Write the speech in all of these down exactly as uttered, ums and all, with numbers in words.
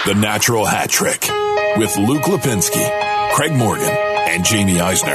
The Natural Hat Trick with Luke Lipinski, Craig Morgan, and Jamie Eisner.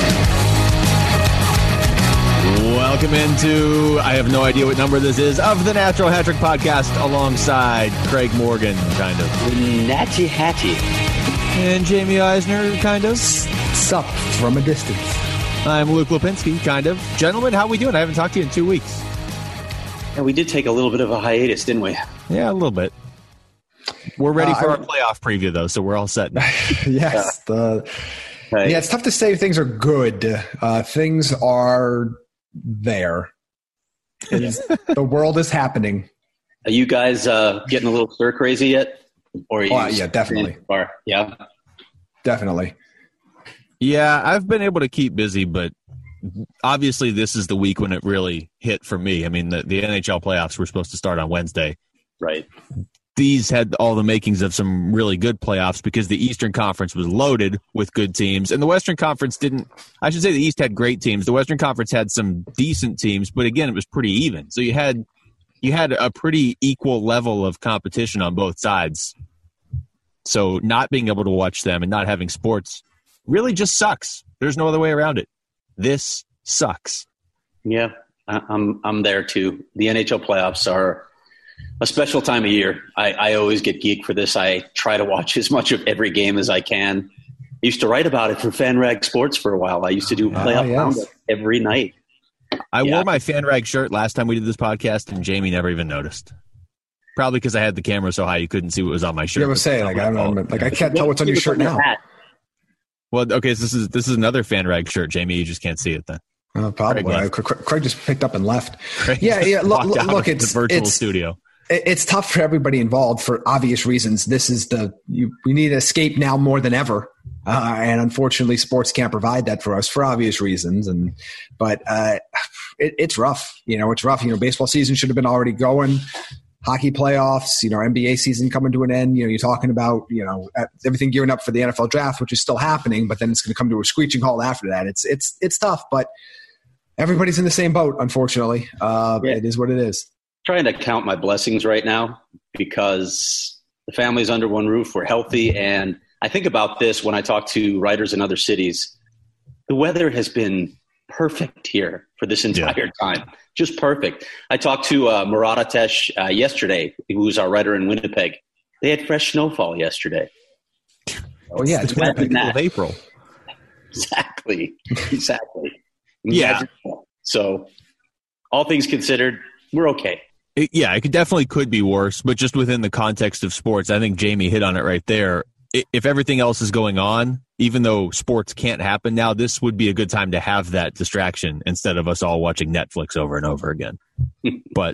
Welcome into, I have no idea what number this is, of the Natural Hat Trick podcast alongside Craig Morgan, kind of. Natty Hattie. And Jamie Eisner, kind of. Sup from a distance. I'm Luke Lipinski, kind of. Gentlemen, how we doing? I haven't talked to you in two weeks. Yeah, we did take a little bit of a hiatus, didn't we? Yeah, a little bit. We're ready uh, for I, our playoff preview, though, so we're all set. Yes. The, right. Yeah, it's tough to say things are good. Uh, things are there. Is, the world is happening. Are you guys uh, getting a little stir crazy yet? Or are you oh, yeah, definitely. Far? Yeah, definitely. Yeah, I've been able to keep busy, but obviously this is the week when it really hit for me. I mean, the, the N H L playoffs were supposed to start on Wednesday. Right. These had all the makings of some really good playoffs because the Eastern Conference was loaded with good teams, and the Western Conference didn't. I should say the East had great teams. The Western Conference had some decent teams, but again, it was pretty even. So you had you had a pretty equal level of competition on both sides. So not being able to watch them and not having sports really just sucks. There's no other way around it. This sucks. Yeah, I'm I'm there too. The N H L playoffs are a special time of year. I, I always get geeked for this. I try to watch as much of every game as I can. I used to write about it for FanRag Sports for a while. I used to do playoff oh, yes. roundup every night. I yeah. wore my FanRag shirt last time we did this podcast, and Jamie never even noticed. Probably because I had the camera so high you couldn't see what was on my shirt. Yeah, I was saying, like, I don't know, like I can't tell what's on your shirt now. Well, okay, so this is this is another FanRag shirt, Jamie. You just can't see it then. Uh, probably. Craig, Craig, Craig just picked up and left. Craig yeah, yeah. Look, look it's the virtual it's, studio. It's tough for everybody involved for obvious reasons. This is the you, we need escape now more than ever, uh, and unfortunately, sports can't provide that for us for obvious reasons. And but uh, it, it's rough. You know, it's rough. You know, baseball season should have been already going. Hockey playoffs, you know, N B A season coming to an end. You know, you're talking about, you know, everything gearing up for the N F L draft, which is still happening, but then it's going to come to a screeching halt after that. It's it's it's tough, but everybody's in the same boat, unfortunately. Uh, yeah. It is what it is. Trying to count my blessings right now because the family's under one roof. We're healthy. And I think about this when I talk to writers in other cities. The weather has been perfect here for this entire yeah. time. Just perfect. I talked to uh, Murat Atesh uh, yesterday, who's our writer in Winnipeg. They had fresh snowfall yesterday. Oh, yeah. It's the middle of April. Exactly. Exactly. Yeah. So all things considered, we're okay. It, yeah, it could definitely could be worse, but just within the context of sports, I think Jamie hit on it right there. If everything else is going on, even though sports can't happen now, this would be a good time to have that distraction instead of us all watching Netflix over and over again. But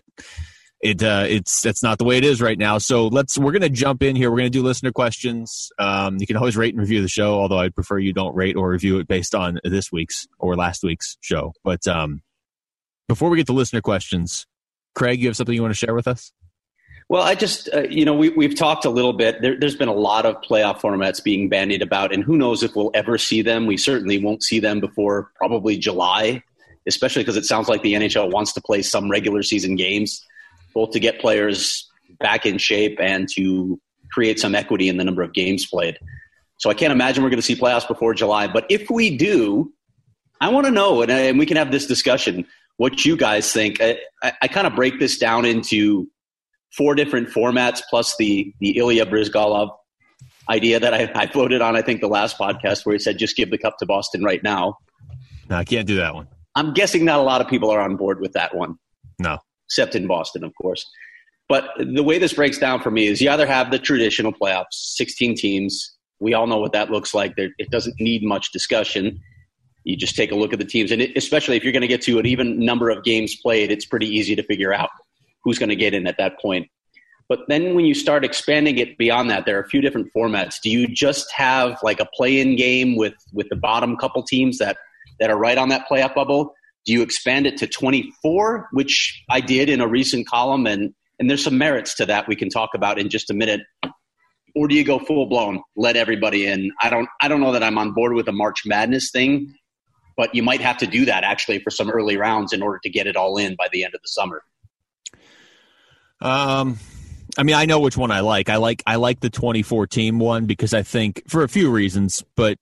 it uh, it's that's not the way it is right now. So let's we're going to jump in here. We're going to do listener questions. Um, you can always rate and review the show, although I'd prefer you don't rate or review it based on this week's or last week's show. But um, before we get to listener questions, Craig, you have something you want to share with us? Well, I just, uh, you know, we, we've talked a little bit. There, there's been a lot of playoff formats being bandied about, and who knows if we'll ever see them. We certainly won't see them before probably July, especially because it sounds like the N H L wants to play some regular season games, both to get players back in shape and to create some equity in the number of games played. So I can't imagine we're going to see playoffs before July. But if we do, I want to know, and, and we can have this discussion, what you guys think. I, I, I kind of break this down into four different formats plus the the Ilya Bryzgalov idea that I, I voted on, I think, the last podcast where he said, just give the cup to Boston right now. No, I can't do that one. I'm guessing not a lot of people are on board with that one. No. Except in Boston, of course. But the way this breaks down for me is you either have the traditional playoffs, sixteen teams. We all know what that looks like. There, it doesn't need much discussion. You just take a look at the teams. And it, especially if you're going to get to an even number of games played, it's pretty easy to figure out who's going to get in at that point. But then when you start expanding it beyond that, there are a few different formats. Do you just have like a play-in game with, with the bottom couple teams that, that are right on that playoff bubble? Do you expand it to twenty-four, which I did in a recent column, and, and there's some merits to that we can talk about in just a minute. Or do you go full-blown, let everybody in? I don't I don't know that I'm on board with a March Madness thing, but you might have to do that actually for some early rounds in order to get it all in by the end of the summer. Um, I mean, I know which one I like. I like I like the twenty-four team one because I think for a few reasons, but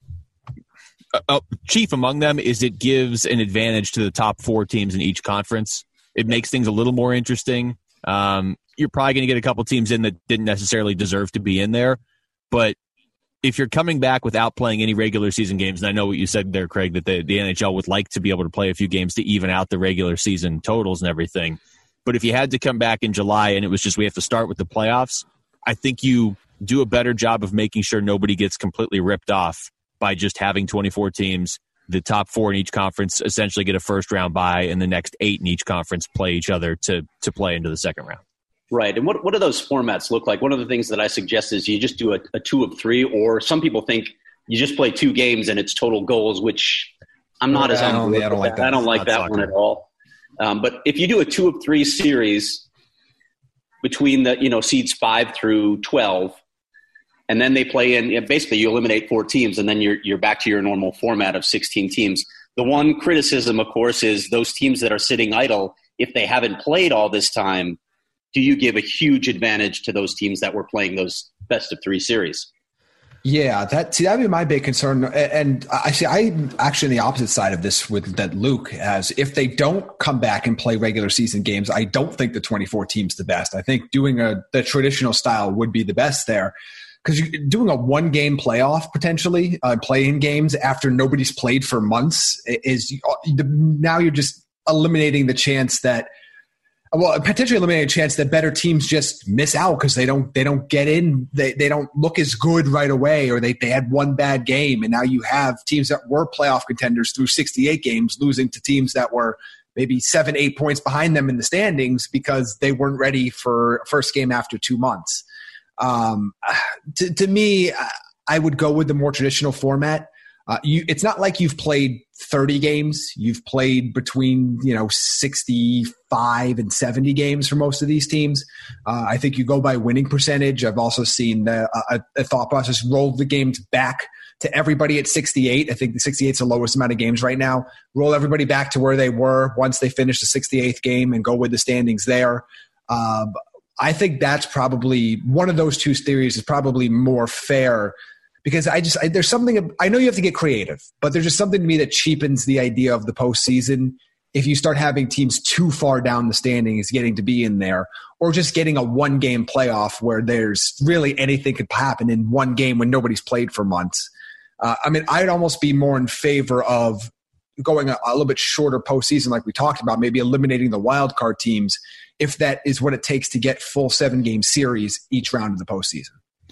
uh, chief among them is it gives an advantage to the top four teams in each conference. It makes things a little more interesting. Um, you're probably going to get a couple teams in that didn't necessarily deserve to be in there, but if you're coming back without playing any regular season games, and I know what you said there, Craig, that the, the N H L would like to be able to play a few games to even out the regular season totals and everything. But if you had to come back in July and it was just we have to start with the playoffs, I think you do a better job of making sure nobody gets completely ripped off by just having twenty-four teams. The top four in each conference essentially get a first round bye, and the next eight in each conference play each other to to play into the second round. Right. And what, what do those formats look like? One of the things that I suggest is you just do a, a two of three, or some people think you just play two games and it's total goals, which I'm not yeah, as I don't, I don't like that. I don't like that one at all. Um, but if you do a two of three series between the, you know, seeds five through twelve, and then they play in, you know, basically you eliminate four teams and then you're, you're back to your normal format of sixteen teams. The one criticism, of course, is those teams that are sitting idle, if they haven't played all this time, do you give a huge advantage to those teams that were playing those best of three series? Yeah, that see, that'd be my big concern. And I see, I'm actually on the opposite side of this with that Luke has. If they don't come back and play regular season games, I don't think the twenty-four team's the best. I think doing a the traditional style would be the best there. Because you're doing a one-game playoff potentially, uh, play-in games after nobody's played for months is now you're just eliminating the chance that. Well, potentially eliminating a chance that better teams just miss out because they don't they don't get in, they they don't look as good right away, or they, they had one bad game, and now you have teams that were playoff contenders through sixty-eight games losing to teams that were maybe seven, eight points behind them in the standings because they weren't ready for first game after two months. Um, to, to me, I would go with the more traditional format. Uh, you, it's not like you've played thirty games. You've played between, you know, sixty-five and seventy games for most of these teams. Uh, I think you go by winning percentage. I've also seen the, a, a thought process roll the games back to everybody at sixty-eight. I think the sixty-eight is the lowest amount of games right now. Roll everybody back to where they were once they finish the sixty-eighth game and go with the standings there. Um, I think that's probably one of those two theories is probably more fair. Because I just I, there's something I know you have to get creative, but there's just something to me that cheapens the idea of the postseason if you start having teams too far down the standings getting to be in there, or just getting a one game playoff where there's really anything could happen in one game when nobody's played for months. Uh, I mean, I'd almost be more in favor of going a, a little bit shorter postseason, like we talked about, maybe eliminating the wild card teams if that is what it takes to get full seven game series each round of the postseason.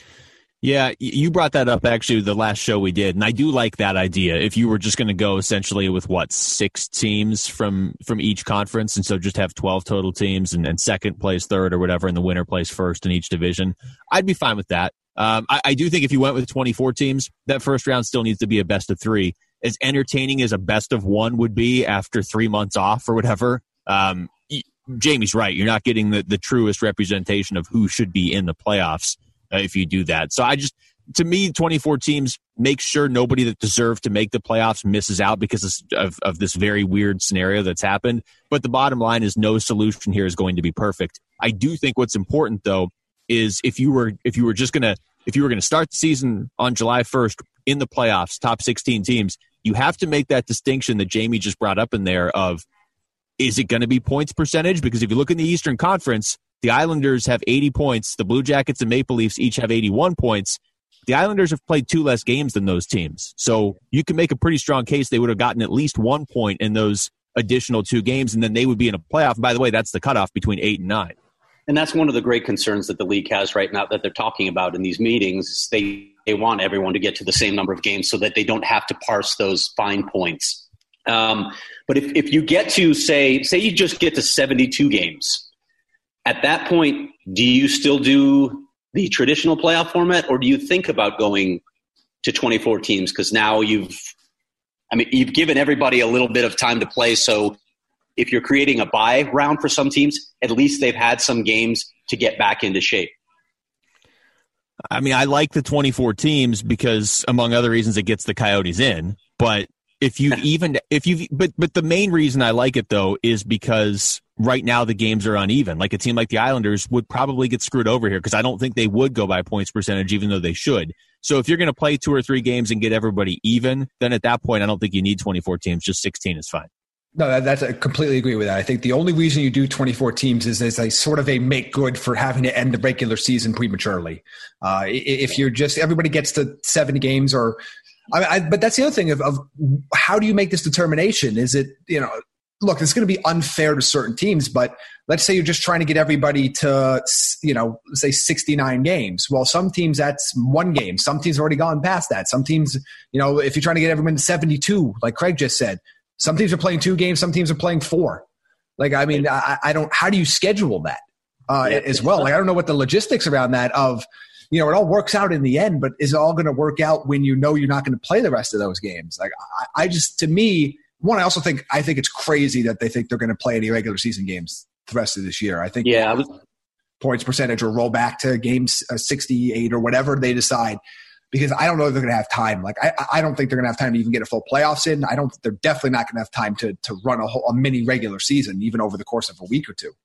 Yeah, you brought that up actually the last show we did, and I do like that idea. If you were just going to go essentially with, what, six teams from, from each conference, and so just have twelve total teams, and, and second plays third or whatever, and the winner plays first in each division, I'd be fine with that. Um, I, I do think if you went with twenty-four teams, that first round still needs to be a best of three. As entertaining as a best of one would be after three months off or whatever, um, Jamie's right. You're not getting the, the truest representation of who should be in the playoffs if you do that. So I just, to me, twenty-four teams make sure nobody that deserved to make the playoffs misses out because of, of this very weird scenario that's happened. But the bottom line is no solution here is going to be perfect. I do think what's important though is if you were if you were just gonna if you were gonna start the season on July first in the playoffs, top sixteen teams, you have to make that distinction that Jamie just brought up in there of, is it going to be points percentage? Because if you look in the Eastern Conference, the Islanders have eighty points. The Blue Jackets and Maple Leafs each have eighty-one points. The Islanders have played two less games than those teams. So you can make a pretty strong case they would have gotten at least one point in those additional two games, and then they would be in a playoff. And by the way, that's the cutoff between eight and nine. And that's one of the great concerns that the league has right now that they're talking about in these meetings. They, they want everyone to get to the same number of games so that they don't have to parse those fine points. Um, but if, if you get to, say, say you just get to seventy-two games, at that point, do you still do the traditional playoff format, or do you think about going to twenty-four teams? Because now you've, I mean, you've given everybody a little bit of time to play. So if you're creating a bye round for some teams, at least they've had some games to get back into shape. I mean, I like the twenty-four teams because, among other reasons, it gets the Coyotes in. But if you even if you but but the main reason I like it though is because right now the games are uneven. Like a team like the Islanders would probably get screwed over here because I don't think they would go by points percentage, even though they should. So if you're going to play two or three games and get everybody even, then at that point, I don't think you need twenty-four teams. Just sixteen is fine. No, that, that's I completely agree with that. I think the only reason you do twenty-four teams is as a sort of a make good for having to end the regular season prematurely. Uh, if you're just everybody gets to seventy games, or I, I, but that's the other thing of, of how do you make this determination? Is it you know? Look, it's going to be unfair to certain teams, but let's say you're just trying to get everybody to, you know, say sixty-nine games. Well, some teams that's one game. Some teams have already gone past that. Some teams, you know, if you're trying to get everyone to seventy-two, like Craig just said, some teams are playing two games. Some teams are playing four. Like, I mean, I, I don't, how do you schedule that uh, yeah. as well? Like, I don't know what the logistics around that of, you know, it all works out in the end, but is it all going to work out when you know you're not going to play the rest of those games? Like, I, I just, to me, One, I also think I think it's crazy that they think they're going to play any regular season games the rest of this year. I think yeah, I was, points percentage will roll back to games uh, sixty-eight or whatever they decide, because I don't know if they're going to have time. Like I, I don't think they're going to have time to even get a full playoffs in. I don't. They're definitely not going to have time to to run a whole a mini regular season even over the course of a week or two.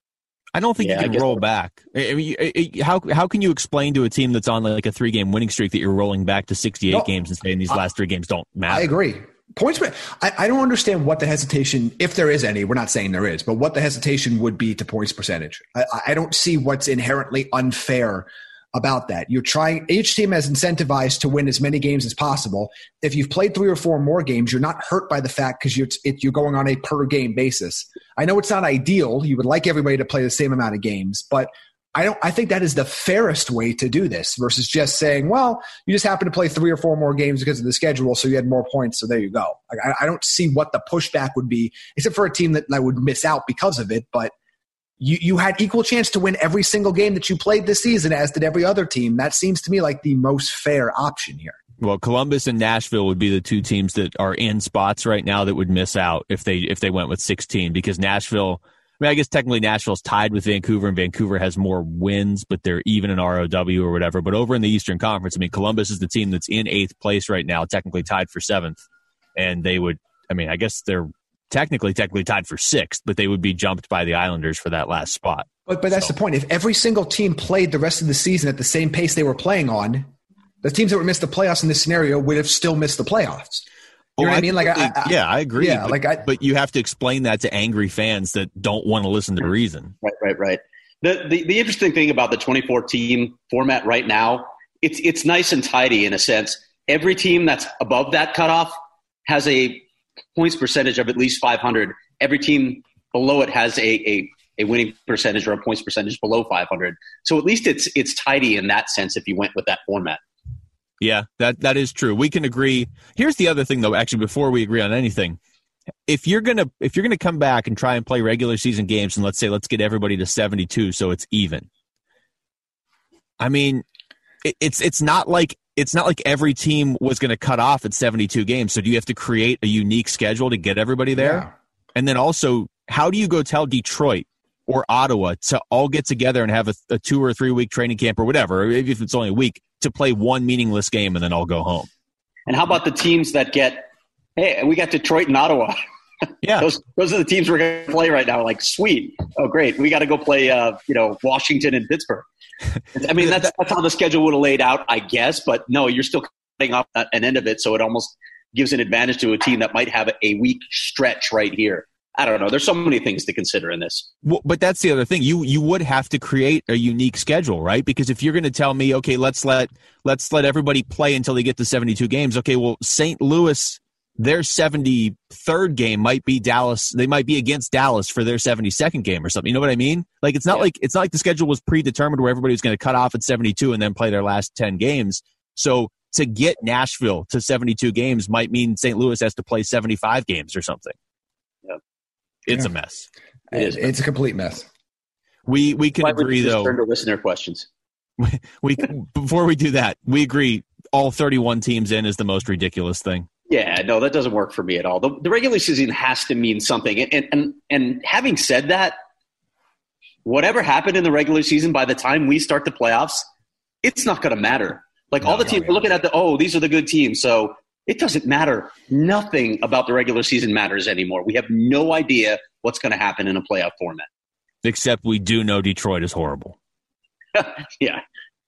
I don't think yeah, you can roll back. I mean, how how can you explain to a team that's on like a three game winning streak that you're rolling back to sixty-eight no, games and saying these I, last three games don't matter? I agree. Points, I, I don't understand what the hesitation, if there is any, we're not saying there is, but what the hesitation would be to points percentage. I, I don't see what's inherently unfair about that. You're trying, each team has incentivized to win as many games as possible. If you've played three or four more games, you're not hurt by the fact because you're, it, you're going on a per game basis. I know it's not ideal. You would like everybody to play the same amount of games, but I don't. I think that is the fairest way to do this versus just saying, well, you just happen to play three or four more games because of the schedule, so you had more points, so there you go. Like, I, I don't see what the pushback would be, except for a team that, that would miss out because of it, but you, you had equal chance to win every single game that you played this season, as did every other team. That seems to me like the most fair option here. Well, Columbus and Nashville would be the two teams that are in spots right now that would miss out if they if they went with sixteen, because Nashville – I mean, I guess technically Nashville's tied with Vancouver, and Vancouver has more wins, but they're even in R O W or whatever. But over in the Eastern Conference, I mean, Columbus is the team that's in eighth place right now, technically tied for seventh. And they would, I mean, I guess they're technically, technically tied for sixth, but they would be jumped by the Islanders for that last spot. But but that's so. the point. If every single team played the rest of the season at the same pace they were playing on, the teams that would miss the playoffs in this scenario would have still missed the playoffs. You know oh, what I mean? Like, I, I, yeah, I agree. Yeah, but, like I, but you have to explain that to angry fans that don't want to listen to reason. Right, right, right. The, the the interesting thing about the twenty-four team format right now, it's it's nice and tidy in a sense. Every team that's above that cutoff has a points percentage of at least five hundred. Every team below it has a, a, a winning percentage or a points percentage below five hundred. So at least it's it's tidy in that sense if you went with that format. Yeah, that that is true. We can agree. Here's the other thing, though. Actually, before we agree on anything, if you're gonna if you're gonna come back and try and play regular season games, and let's say let's get everybody to seventy-two, so it's even. I mean, it, it's it's not like it's not like every team was going to cut off at seventy-two games. So do you have to create a unique schedule to get everybody there? Yeah. And then also, how do you go tell Detroit or Ottawa to all get together and have a, a two or three week training camp or whatever, if it's only a week, to play one meaningless game and then all go home? And how about the teams that get, hey, we got Detroit and Ottawa. Yeah. those those are the teams we're going to play right now. Like, sweet. Oh, great. We got to go play, uh, you know, Washington and Pittsburgh. I mean, that's, that's how the schedule would have laid out, I guess. But no, you're still cutting off an end of it. So it almost gives an advantage to a team that might have a weak stretch right here. I don't know. There's so many things to consider in this. Well, but that's the other thing. You you would have to create a unique schedule, right? Because if you're going to tell me, okay, let's let let's let everybody play until they get to seventy-two games. Okay, well, Saint Louis, their seventy-third game might be Dallas. They might be against Dallas for their seventy-second game or something. You know what I mean? Like, it's not yeah. like it's not like the schedule was predetermined where everybody was going to cut off at seventy-two and then play their last ten games. So to get Nashville to seventy-two games might mean Saint Louis has to play seventy-five games or something. Yeah. It's yeah. a mess. It is. It's a complete mess. We we can Why agree, just though. Turn to listener questions. We, we before we do that, we agree all thirty-one teams in is the most ridiculous thing. Yeah, no, that doesn't work for me at all. The, the regular season has to mean something. And, and and and having said that, whatever happened in the regular season, by the time we start the playoffs, it's not going to matter. Like, no, all the teams, we're looking at the, oh, these are the good teams. So It doesn't matter. Nothing about the regular season matters anymore. We have no idea what's going to happen in a playoff format. Except we do know Detroit is horrible. Yeah.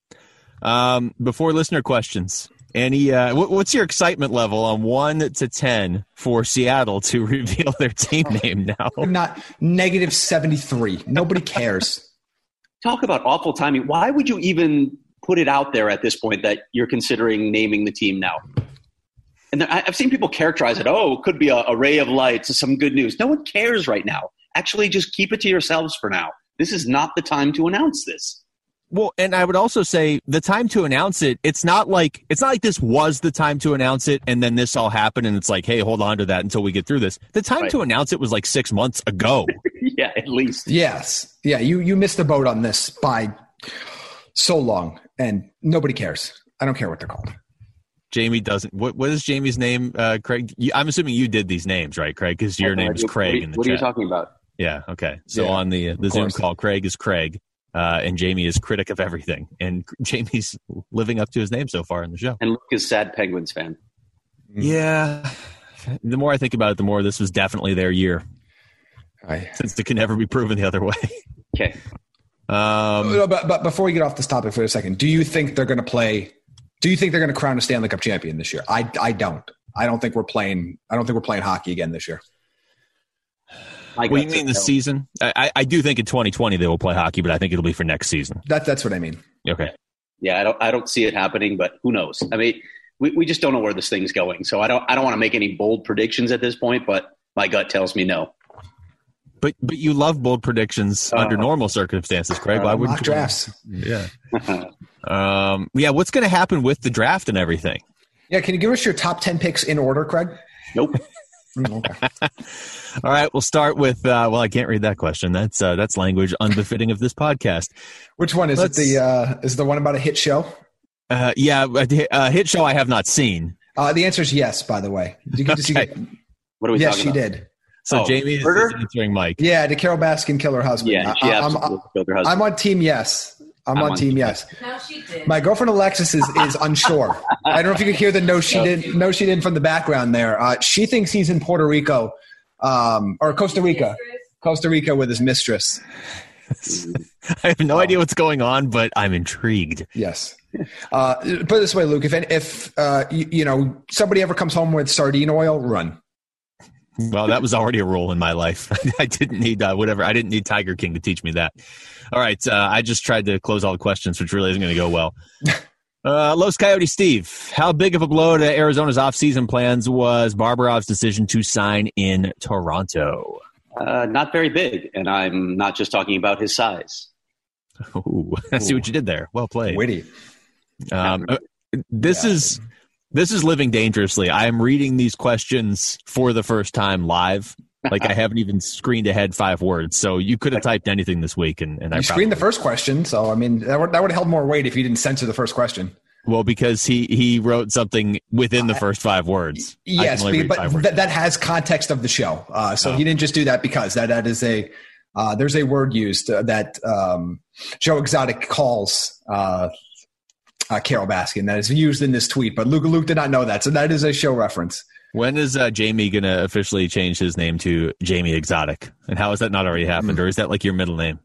Um, before listener questions, Annie, uh, what, what's your excitement level on one to ten for Seattle to reveal their team name now? Not negative seventy-three. Nobody cares. Talk about awful timing. Why would you even put it out there at this point that you're considering naming the team now? And there, I've seen people characterize it. Oh, it could be a, a ray of light, some good news. No one cares right now. Actually, just keep it to yourselves for now. This is not the time to announce this. Well, and I would also say the time to announce it, it's not like it's not like this was the time to announce it and then this all happened and it's like, hey, hold on to that until we get through this. The time right. to announce it was like six months ago. Yeah, at least. Yes. Yeah, you, you missed the boat on this by so long, and nobody cares. I don't care what they're called. Jamie doesn't. What What is Jamie's name, uh, Craig? You, I'm assuming you did these names, right, Craig? Because your name's Craig what are, in the what chat. What are you talking about? Yeah, okay. So yeah, on the the Zoom call, Craig is Craig. Uh, and Jamie is critic of everything. And Jamie's living up to his name so far in the show. And Luke is sad Penguins fan. Yeah. The more I think about it, the more this was definitely their year. I, Since it can never be proven the other way. Okay. Um, but, but before we get off this topic for a second, do you think they're going to play – do you think they're going to crown a Stanley Cup champion this year? I, I don't. I don't think we're playing – I don't think we're playing hockey again this year. What do you mean the season? I, I do think in twenty twenty they will play hockey, but I think it'll be for next season. That, that's what I mean. Okay. Yeah, I don't I don't see it happening, but who knows? I mean, we, we just don't know where this thing's going. So I don't I don't want to make any bold predictions at this point, but my gut tells me no. But but you love bold predictions uh, under normal circumstances, Craig. Why uh, wouldn't mock drafts? Yeah. um, yeah, what's going to happen with the draft and everything? Yeah, can you give us your top ten picks in order, Craig? Nope. Okay. All right, we'll start with. Uh, well, I can't read that question. That's uh, that's language unbefitting of this podcast. Which one is Let's, it? The uh, is the one about a hit show? Uh, yeah, a, a hit show I have not seen. Uh, the answer is yes. By the way, did you get to see? Okay. What are we yes, talking she about? did. So oh, Jamie is, is answering Mike. Yeah, did Carol Baskin kill her husband? Yeah, she I, absolutely I'm, killed her husband. I'm on team yes. I'm, I'm on, on team yes. No, she did. My girlfriend Alexis is, is unsure. I don't know if you could hear the no she did no she did from the background there. Uh, she thinks he's in Puerto Rico um, or Costa Rica, Costa Rica with his mistress. I have no idea what's going on, but I'm intrigued. Yes. Uh, put it this way, Luke. If if uh, you, you know somebody ever comes home with sardine oil, run. Well, that was already a rule in my life. I didn't need uh, whatever. I didn't need Tiger King to teach me that. All right. Uh, I just tried to close all the questions, which really isn't going to go well. Uh, Los Coyote Steve, how big of a blow to Arizona's offseason plans was Barbarov's decision to sign in Toronto? Uh, not very big, and I'm not just talking about his size. Ooh, I see what you did there. Well played. Witty. Um, uh, this yeah. is this is living dangerously. I am reading these questions for the first time live. Like I haven't even screened ahead five words. So you could have typed anything this week, and, and you I screened the first question. So I mean, that would that would have held more weight if you didn't censor the first question. Well, because he, he wrote something within the first five words. Yes, but words. That, that has context of the show. Uh, so oh. he didn't just do that because that that is a uh, there's a word used uh, that um, Joe Exotic calls uh, uh, Carol Baskin that is used in this tweet. But Luke Luke did not know that, so that is a show reference. When is uh, Jamie going to officially change his name to Jamie Exotic? And how has that not already happened? Mm. Or is that like your middle name?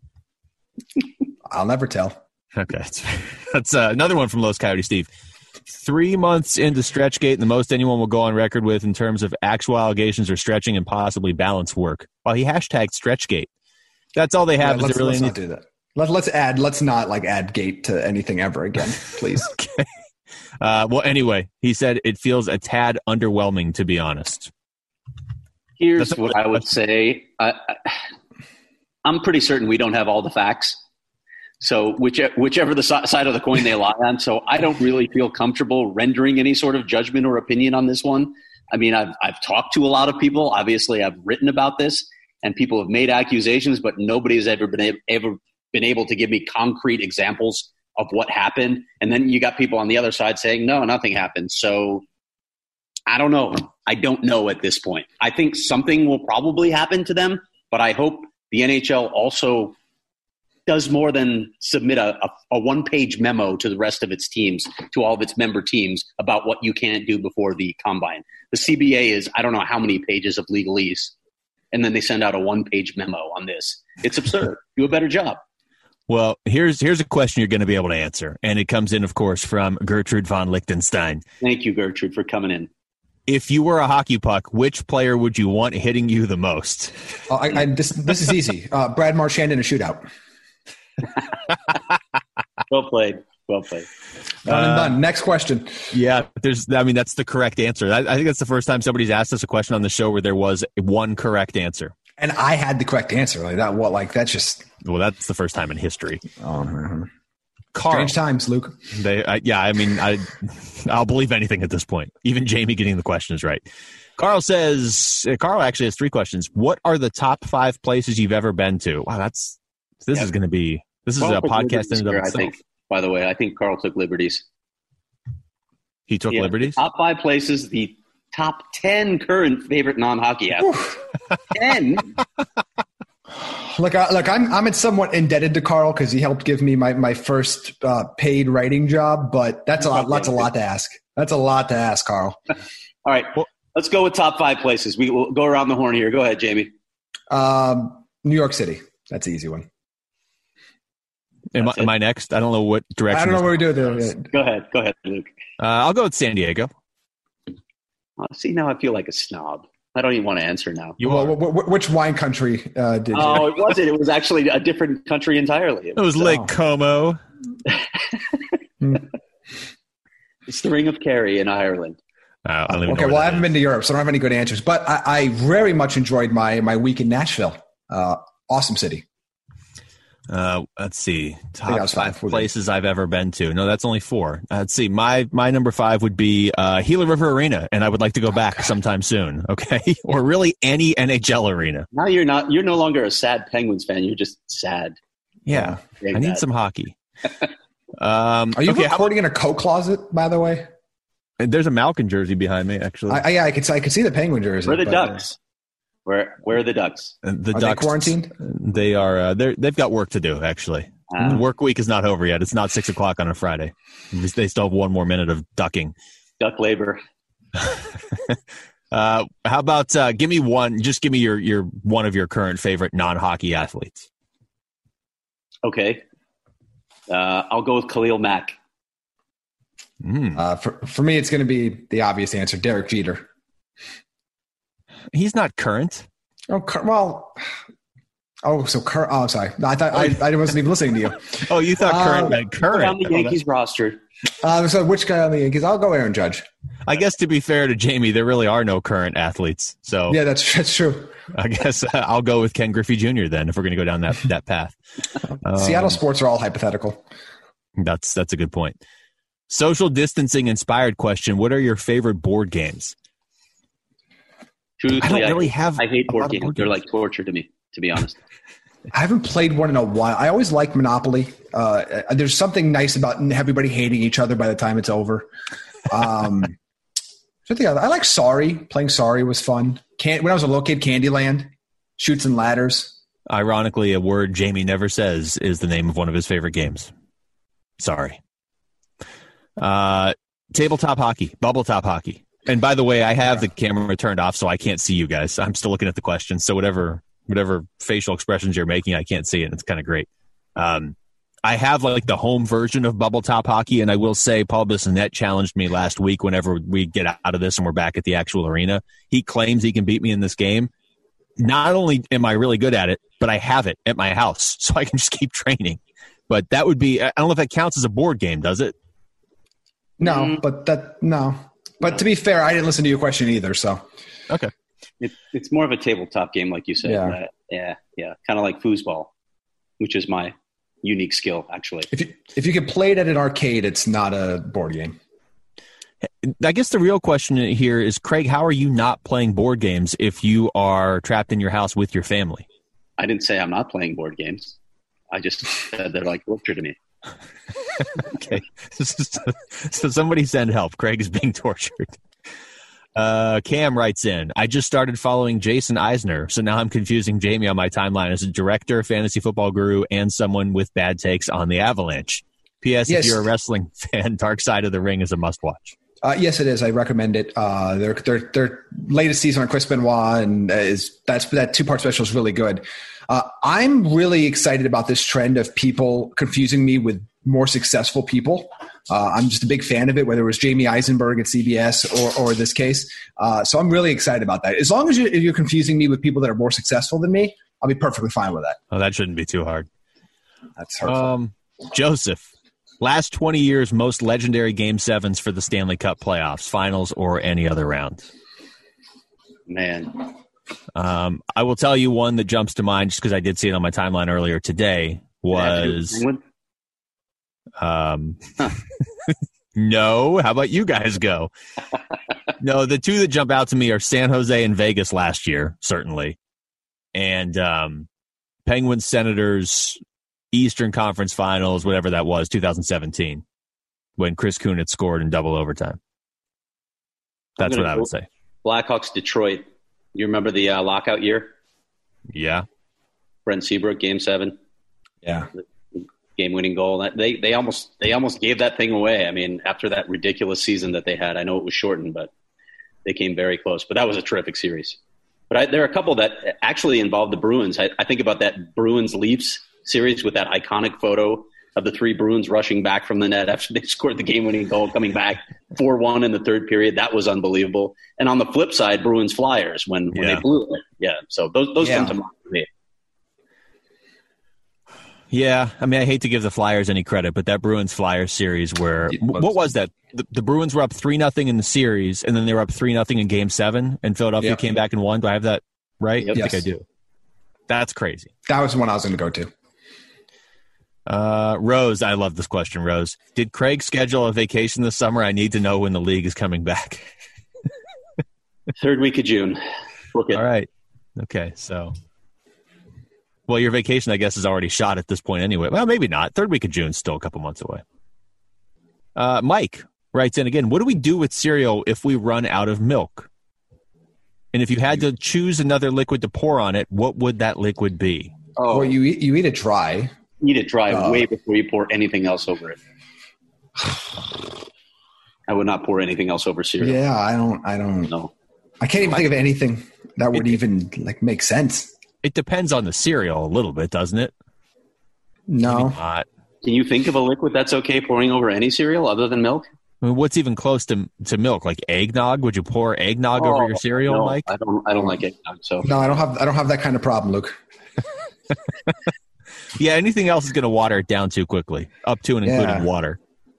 I'll never tell. Okay. That's, that's uh, another one from Los Coyote Steve. Three months into Stretchgate, and the most anyone will go on record with in terms of actual allegations or stretching and possibly balance work. While he hashtagged Stretchgate. That's all they have. Yeah, is let's, really let's not do that. Let, let's add. Let's not like add gate to anything ever again, please. Okay. Uh, well, anyway, he said it feels a tad underwhelming, to be honest. Here's That's what I would say. I, I'm pretty certain we don't have all the facts. So whichever, whichever the side of the coin they lie on. So I don't really feel comfortable rendering any sort of judgment or opinion on this one. I mean, I've, I've talked to a lot of people. Obviously, I've written about this, and people have made accusations, but nobody has ever been, able, ever been able to give me concrete examples of what happened. And then you got people on the other side saying, no, nothing happened. So I don't know. I don't know at this point. I think something will probably happen to them, but I hope the N H L also does more than submit a, a, a one-page memo to the rest of its teams, to all of its member teams, about what you can't do before the combine. The C B A is, I don't know how many pages of legalese, and then they send out a one-page memo on this. It's absurd. Do a better job. Well, here's here's a question you're going to be able to answer, and it comes in, of course, from Gertrude von Lichtenstein. Thank you, Gertrude, for coming in. If you were a hockey puck, which player would you want hitting you the most? Oh, I, I, this this is easy. Uh, Brad Marchand in a shootout. Well played. Well played. Done and done. Next question. Yeah, there's. I mean, that's the correct answer. I, I think that's the first time somebody's asked us a question on the show where there was one correct answer. And I had the correct answer. Like that. What? Like that's just. Well, that's the first time in history. Oh, man. Carl, strange times, Luke. They, I, yeah, I mean, I, I'll believe anything at this point. Even Jamie getting the questions right. Carl says. Carl actually has three questions. What are the top five places you've ever been to? Wow, that's. This yep. is going to be. This is Carl a podcast in and of itself. I think. By the way, I think Carl took liberties. He took yeah, liberties? Top five places, the top ten current favorite non-hockey athletes. ten? Look, I, look, I'm I'm somewhat indebted to Carl because he helped give me my, my first uh, paid writing job, but that's a lot, that's a lot to ask. That's a lot to ask, Carl. All right, well, let's go with top five places. We will go around the horn here. Go ahead, Jamie. Um, New York City. That's the easy one. Am I, am I next? I don't know what direction. I don't know what we do there. Go ahead. Go ahead, Luke. Uh, I'll go with San Diego. Oh, see, now I feel like a snob. I don't even want to answer now. You well, which wine country uh, did you? Oh, it wasn't. It was actually a different country entirely. It was, it was Lake oh. Como. It's the Ring of Kerry in Ireland. Uh, I don't even okay, know well, I haven't is. been to Europe, so I don't have any good answers. But I, I very much enjoyed my, my week in Nashville. Uh, awesome city. Uh, let's see. Top five five places I've ever been to. No, that's only four. Uh, let's see. My my number five would be uh, Gila River Arena, and I would like to go back okay. sometime soon. Okay, or really any N H L arena. Now you're not. You're no longer a sad Penguins fan. You're just sad. Yeah, I need bad. some hockey. um, Are you okay, recording in a coat closet, by the way? There's a Malkin jersey behind me, actually. I, I, yeah, I could I could see the Penguin jersey. Where are the but, Ducks? Where where are the Ducks? The are Ducks they quarantined? They are. Uh, they they've got work to do. Actually, uh, the work week is not over yet. It's not six o'clock on a Friday. They still have one more minute of ducking. Duck labor. uh, how about uh, give me one? Just give me your your one of your current favorite non-hockey athletes. Okay, uh, I'll go with Khalil Mack. Mm. Uh, for for me, it's going to be the obvious answer: Derek Jeter. He's not current. Oh, well. Oh, so current. Oh, sorry. I thought I, I wasn't even listening to you. Oh, you thought current uh, meant current. On the Yankees oh, roster. Uh, so which guy on the Yankees? I'll go Aaron Judge. I guess to be fair to Jamie, there really are no current athletes. So yeah, that's that's true. I guess uh, I'll go with Ken Griffey Junior then, if we're going to go down that that path. Um, Seattle sports are all hypothetical. That's that's a good point. Social distancing inspired question: what are your favorite board games? Truthfully, I don't really I, have. I hate board games. Board They're games. like torture to me, to be honest. I haven't played one in a while. I always like Monopoly. Uh, there's something nice about everybody hating each other by the time it's over. Um, so I, I like Sorry. Playing Sorry was fun. Can, when I was a little kid, Candyland, Chutes and Ladders. Ironically, a word Jamie never says is the name of one of his favorite games. Sorry. Uh, tabletop hockey, bubble top hockey. And by the way, I have the camera turned off, so I can't see you guys. I'm still looking at the questions. So whatever whatever facial expressions you're making, I can't see it. It's kind of great. Um, I have like the home version of bubble top hockey, and I will say Paul Bissonnette challenged me last week whenever we get out of this and we're back at the actual arena. He claims he can beat me in this game. Not only am I really good at it, but I have it at my house, so I can just keep training. But that would be – I don't know if that counts as a board game, does it? No, mm. but that – no. But to be fair, I didn't listen to your question either, so. Okay. It, it's more of a tabletop game, like you said. Yeah, uh, yeah, yeah. Kind of like foosball, which is my unique skill, actually. If you if you can play it at an arcade, it's not a board game. I guess the real question here is, Craig, how are you not playing board games if you are trapped in your house with your family? I didn't say I'm not playing board games. I just said they're like torture to me. Okay. So somebody send help. Craig is being tortured. Uh, Cam writes in, I just started following Jason Eisner, so now I'm confusing Jamie on my timeline as a director, fantasy football guru, and someone with bad takes on the Avalanche. P S. Yes. If you're a wrestling fan, Dark Side of the Ring is a must-watch. Uh, yes, it is. I recommend it. Uh, their their their latest season on Chris Benoit and uh, is that's that two part special is really good. Uh, I'm really excited about this trend of people confusing me with more successful people. Uh, I'm just a big fan of it, whether it was Jamie Eisenberg at C B S or, or this case. Uh, so I'm really excited about that. As long as you're, you're confusing me with people that are more successful than me, I'll be perfectly fine with that. Oh, that shouldn't be too hard. That's hurtful. Um, Joseph, last twenty years, most legendary Game sevens for the Stanley Cup playoffs, finals, or any other round. Man. Um, I will tell you one that jumps to mind just because I did see it on my timeline earlier today was... Um, huh. No. How about you guys go? No, the two that jump out to me are San Jose and Vegas last year, certainly. And um, Penguins, Senators, Eastern Conference Finals, whatever that was, two thousand seventeen, when Chris Kunitz scored in double overtime. That's what I would say. Blackhawks, Detroit. You remember the uh, lockout year? Yeah. Brent Seabrook, Game seven. Yeah. Game-winning goal. They they almost they almost gave that thing away. I mean, after that ridiculous season that they had, I know it was shortened, but they came very close. But that was a terrific series. But I, there are a couple that actually involved the Bruins. I, I think about that Bruins-Leafs series with that iconic photo of the three Bruins rushing back from the net after they scored the game-winning goal, coming back four one in the third period. That was unbelievable. And on the flip side, Bruins-Flyers when, when yeah. they blew it. Yeah, so those, those yeah. come to mind for me. Yeah, I mean, I hate to give the Flyers any credit, but that Bruins-Flyers series where – what was that? The, the Bruins were up three nothing in the series, and then they were up three nothing in Game seven, and Philadelphia yep. came back and won. Do I have that right? Yep. I yes. think I do. That's crazy. That was the one I was going to go to. Uh, Rose, I love this question, Rose. Did Craig schedule a vacation this summer? I need to know when the league is coming back. Third week of June. Book it. All right. Okay, so – well, your vacation, I guess, is already shot at this point anyway. Well, maybe not. Third week of June is still a couple months away. Uh, Mike writes in again, what do we do with cereal if we run out of milk? And if you had to choose another liquid to pour on it, what would that liquid be? Oh, well, you eat, you eat it dry. Eat it dry uh, way before you pour anything else over it. I would not pour anything else over cereal. Yeah, I don't. I don't know. I can't even think of anything that would it, even like make sense. It depends on the cereal a little bit, doesn't it? No. Not. Can you think of a liquid that's okay pouring over any cereal other than milk? I mean, what's even close to to milk? Like eggnog? Would you pour eggnog oh, over your cereal, no, Mike? I don't. I don't like eggnog. So no, I don't have. I don't have that kind of problem, Luke. Yeah, anything else is going to water it down too quickly, up to and including yeah. water.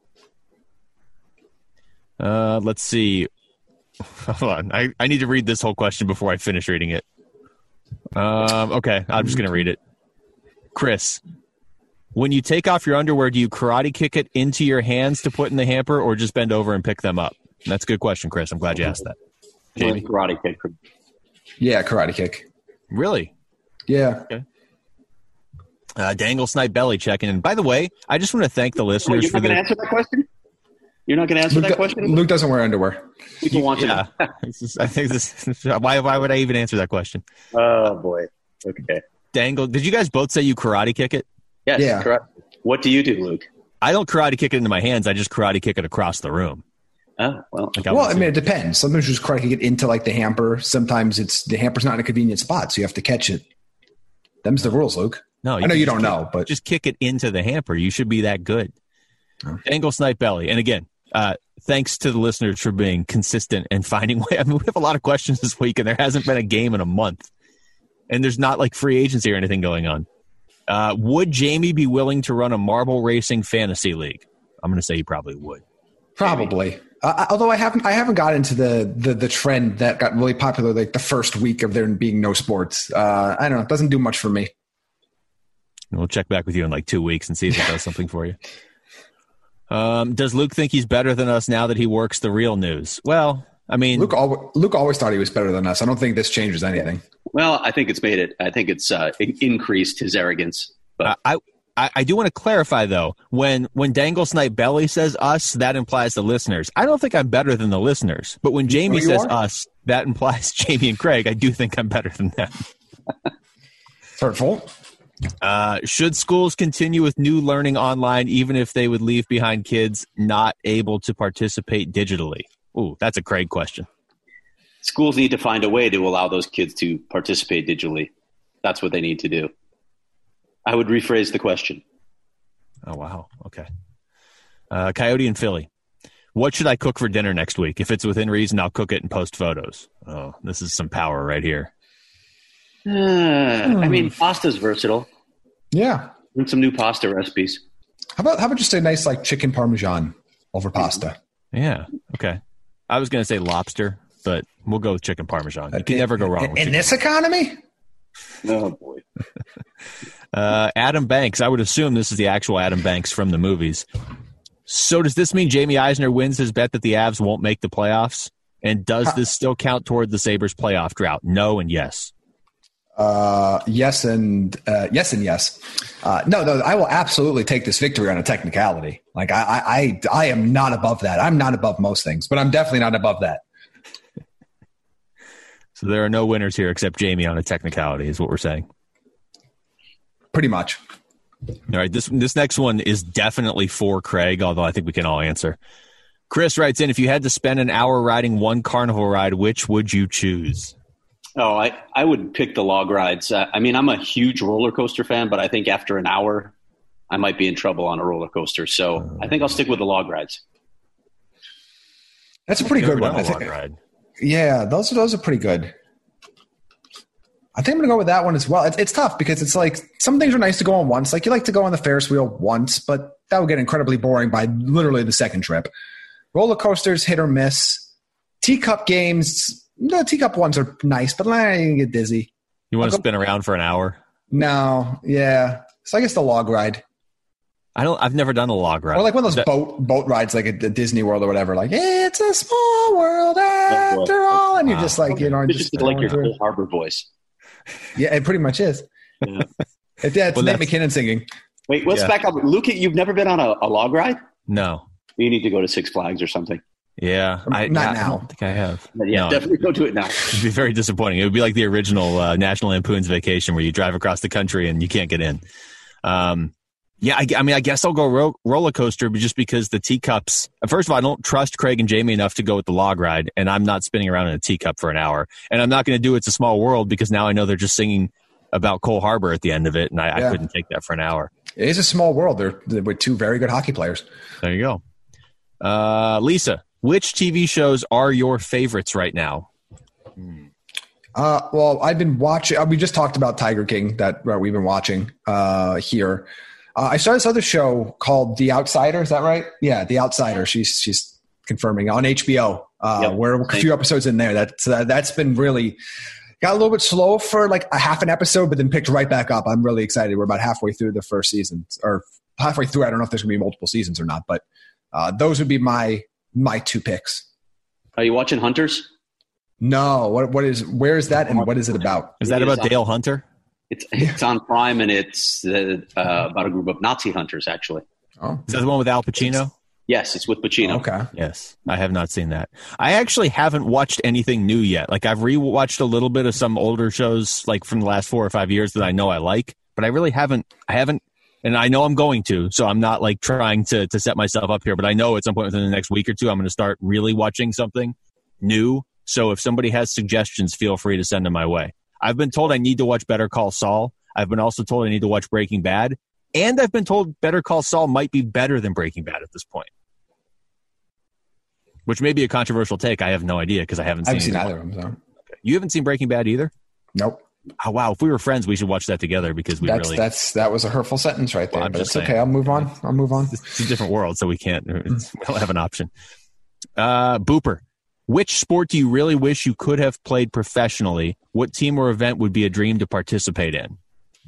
Uh, let's see. Hold on, I I need to read this whole question before I finish reading it. Um, okay, I'm just going to read it. Chris, when you take off your underwear, do you karate kick it into your hands to put in the hamper or just bend over and pick them up? And that's a good question, Chris. I'm glad you asked that. Jamie? Karate kick. Yeah, karate kick. Really? Yeah. Okay. Uh, Dangle Snipe Belly checking in. By the way, I just want to thank the listeners. Wait, you're for not going to the... answer that question? You're not going to answer Luke that question? Luke doesn't wear underwear. People want to yeah. know. just, I think this. Why? Why would I even answer that question? Oh boy. Okay. Dangle. Did you guys both say you karate kick it? Yes. Yeah. Correct. What do you do, Luke? I don't karate kick it into my hands. I just karate kick it across the room. Oh well. Like I well, I mean, it depends. Sometimes you just karate kick it into like the hamper. Sometimes it's the hamper's not in a convenient spot, so you have to catch it. Them's the rules, Luke. No, I know you don't kick, know, but just kick it into the hamper. You should be that good. Oh. Dangle Snipe Belly. And again, uh, thanks to the listeners for being consistent and finding way. I mean, we have a lot of questions this week, and there hasn't been a game in a month. And there's not like free agency or anything going on. Uh, would Jamie be willing to run a marble racing fantasy league? I'm going to say he probably would. Probably. Uh, although I haven't, I haven't got into the, the the trend that got really popular like the first week of there being no sports. Uh, I don't know. It doesn't do much for me. We'll check back with you in like two weeks and see if it does something for you. Um, does Luke think he's better than us now that he works the real news? Well, I mean, Luke, al- Luke always thought he was better than us. I don't think this changes anything. Well, I think it's made it. I think it's uh, increased his arrogance. But I I, I do want to clarify, though, when when Dangle Snipe Belly says us, that implies the listeners. I don't think I'm better than the listeners. But when Jamie says are? us, that implies Jamie and Craig. I do think I'm better than them. Hurtful. Uh, should schools continue with new learning online, even if they would leave behind kids not able to participate digitally? Ooh, that's a Craig question. Schools need to find a way to allow those kids to participate digitally. That's what they need to do. I would rephrase the question. Oh, wow. Okay. Uh, Coyote and Philly. What should I cook for dinner next week? If it's within reason, I'll cook it and post photos. Oh, this is some power right here. Uh, hmm. I mean, pasta's versatile. Yeah. And some new pasta recipes. How about how about just a nice like chicken parmesan over pasta? Yeah. Okay. I was going to say lobster, but we'll go with chicken parmesan. You can in, never go wrong. In, with in this economy? Oh, boy. uh, Adam Banks. I would assume this is the actual Adam Banks from the movies. So does this mean Jamie Eisner wins his bet that the Avs won't make the playoffs? And does this still count toward the Sabres playoff drought? No and yes. Uh, yes and uh, yes and yes. Uh, no, no, I will absolutely take this victory on a technicality. Like I, I, I am not above that. I'm not above most things, but I'm definitely not above that. So there are no winners here except Jamie on a technicality, is what we're saying. Pretty much. All right, this this next one is definitely for Craig, although I think we can all answer. Chris writes in, if you had to spend an hour riding one carnival ride, which would you choose? Oh, I, I would pick the log rides. Uh, I mean, I'm a huge roller coaster fan, but I think after an hour, I might be in trouble on a roller coaster. So uh, I think I'll stick with the log rides. That's a pretty good one. I think. Ride. Yeah, those are, those are pretty good. I think I'm going to go with that one as well. It's, it's tough because it's like some things are nice to go on once. Like you like to go on the Ferris wheel once, but that would get incredibly boring by literally the second trip. Roller coasters, hit or miss. Teacup games. The teacup ones are nice, but I can get dizzy. You want to spin around for an hour? No, yeah. So I guess the log ride. I don't. I've never done a log ride. Or like one of those that, boat boat rides, like at Disney World or whatever. Like it's a small world after all, and you're just like you know, it's just, just like your Cole Harbor voice. Yeah, it pretty much is. Yeah, it, yeah it's well, Nate McKinnon singing. Wait, let's yeah. back up. Luke, you've never been on a, a log ride? No. You need to go to Six Flags or something. Yeah, I, not I, now. I don't think I have. Yeah, no, definitely go do it now. It'd be very disappointing. It would be like the original uh, National Lampoon's Vacation, where you drive across the country and you can't get in. Um, yeah, I, I mean, I guess I'll go ro- roller coaster, but just because the teacups. First of all, I don't trust Craig and Jamie enough to go with the log ride, and I'm not spinning around in a teacup for an hour. And I'm not going to do It's a Small World because now I know they're just singing about Cole Harbor at the end of it, and I, yeah. I couldn't take that for an hour. It is a small world. They're, they're with two very good hockey players. There you go, uh, Lisa. Which T V shows are your favorites right now? Uh, well, I've been watching. Uh, we just talked about Tiger King that uh, we've been watching uh, here. Uh, I saw this other show called The Outsider. Is that right? Yeah, The Outsider. She's she's confirming on H B O. Uh, yep. We're a few episodes in there. That's uh, that's been really got a little bit slow for like a half an episode, but then picked right back up. I'm really excited. We're about halfway through the first season, or halfway through. I don't know if there's going to be multiple seasons or not, but uh, those would be my. My two picks. Are you watching Hunters? No. What? What is? Where is that, and what is it about? Is that about Dale Hunter? It's it's on Prime, and it's uh, uh, about a group of Nazi hunters. Actually, oh, is that the one with Al Pacino? Yes, it's with Pacino. Okay. Yes, I have not seen that. I actually haven't watched anything new yet. Like I've rewatched a little bit of some older shows, like from the last four or five years that I know I like, but I really haven't. I haven't. And I know I'm going to, so I'm not like trying to to set myself up here, but I know at some point within the next week or two, I'm going to start really watching something new. So if somebody has suggestions, feel free to send them my way. I've been told I need to watch Better Call Saul. I've been also told I need to watch Breaking Bad. And I've been told Better Call Saul might be better than Breaking Bad at this point. Which may be a controversial take. I have no idea because I haven't seen, I haven't seen either of them. So. Okay. You haven't seen Breaking Bad either? Nope. Oh, wow. If we were friends, we should watch that together because we that's, really. That's that was a hurtful sentence right there. Well, but it's saying. Okay. I'll move on. I'll move on. It's a different world, so we can't. We don't have an option. Uh, Booper, which sport do you really wish you could have played professionally? What team or event would be a dream to participate in?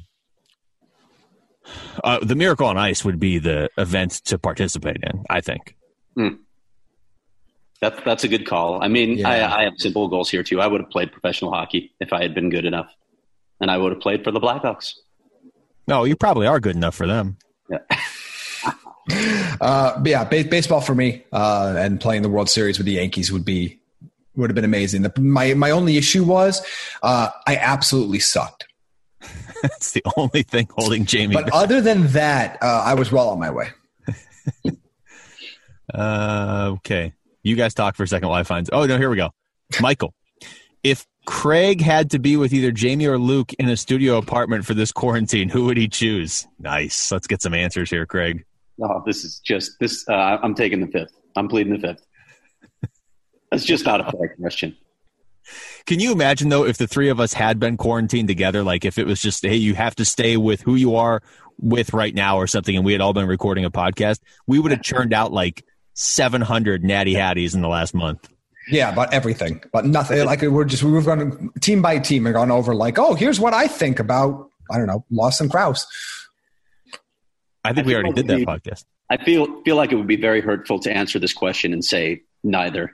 Uh, the Miracle on Ice would be the event to participate in, I think. Hmm. That's that's a good call. I mean, yeah. I, I have simple goals here too. I would have played professional hockey if I had been good enough. And I would have played for the Blackhawks. No, you probably are good enough for them. Yeah. uh, but yeah, ba- baseball for me uh, and playing the World Series with the Yankees would be would have been amazing. The, my my only issue was uh, I absolutely sucked. That's the only thing holding Jamie But back. other than that, uh, I was well on my way. uh, okay. You guys talk for a second while I find. Oh, no, here we go. Michael, if Craig had to be with either Jamie or Luke in a studio apartment for this quarantine, who would he choose? Nice. Let's get some answers here, Craig. Oh, this is just this. Uh, I'm taking the fifth. I'm pleading the fifth. That's just not a fair question. Can you imagine, though, if the three of us had been quarantined together, like if it was just, hey, you have to stay with who you are with right now or something, and we had all been recording a podcast, we would have churned out like seven hundred Natty Hatties in the last month. Yeah, about everything, but nothing. Like we're just we were going team by team and gone over like, oh, here's what I think about I don't know Lawson Krause. I think I we feel already like did that we- podcast. I feel feel like it would be very hurtful to answer this question and say neither.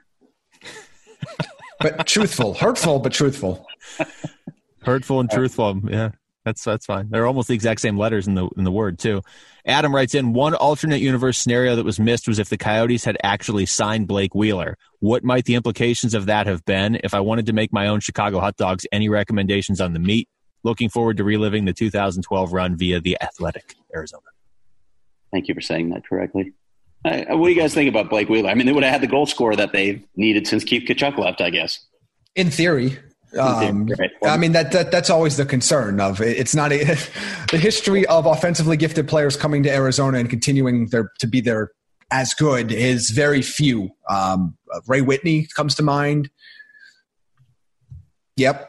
But truthful, hurtful, but truthful. Hurtful and truthful. Yeah, that's that's fine. They're almost the exact same letters in the in the word too. Adam writes in, one alternate universe scenario that was missed was if the Coyotes had actually signed Blake Wheeler. What might the implications of that have been? If I wanted to make my own Chicago hot dogs, any recommendations on the meat? Looking forward to reliving the two thousand twelve run via the Athletic, Arizona. Thank you for saying that correctly. Uh, what do you guys think about Blake Wheeler? I mean, they would have had the goal scorer that they've needed since Keith Tkachuk left, I guess. In theory. Um, right. I mean, that, that that's always the concern of it. It's not a, the history of offensively gifted players coming to Arizona and continuing their, to be there as good is very few. Um, Ray Whitney comes to mind. Yep.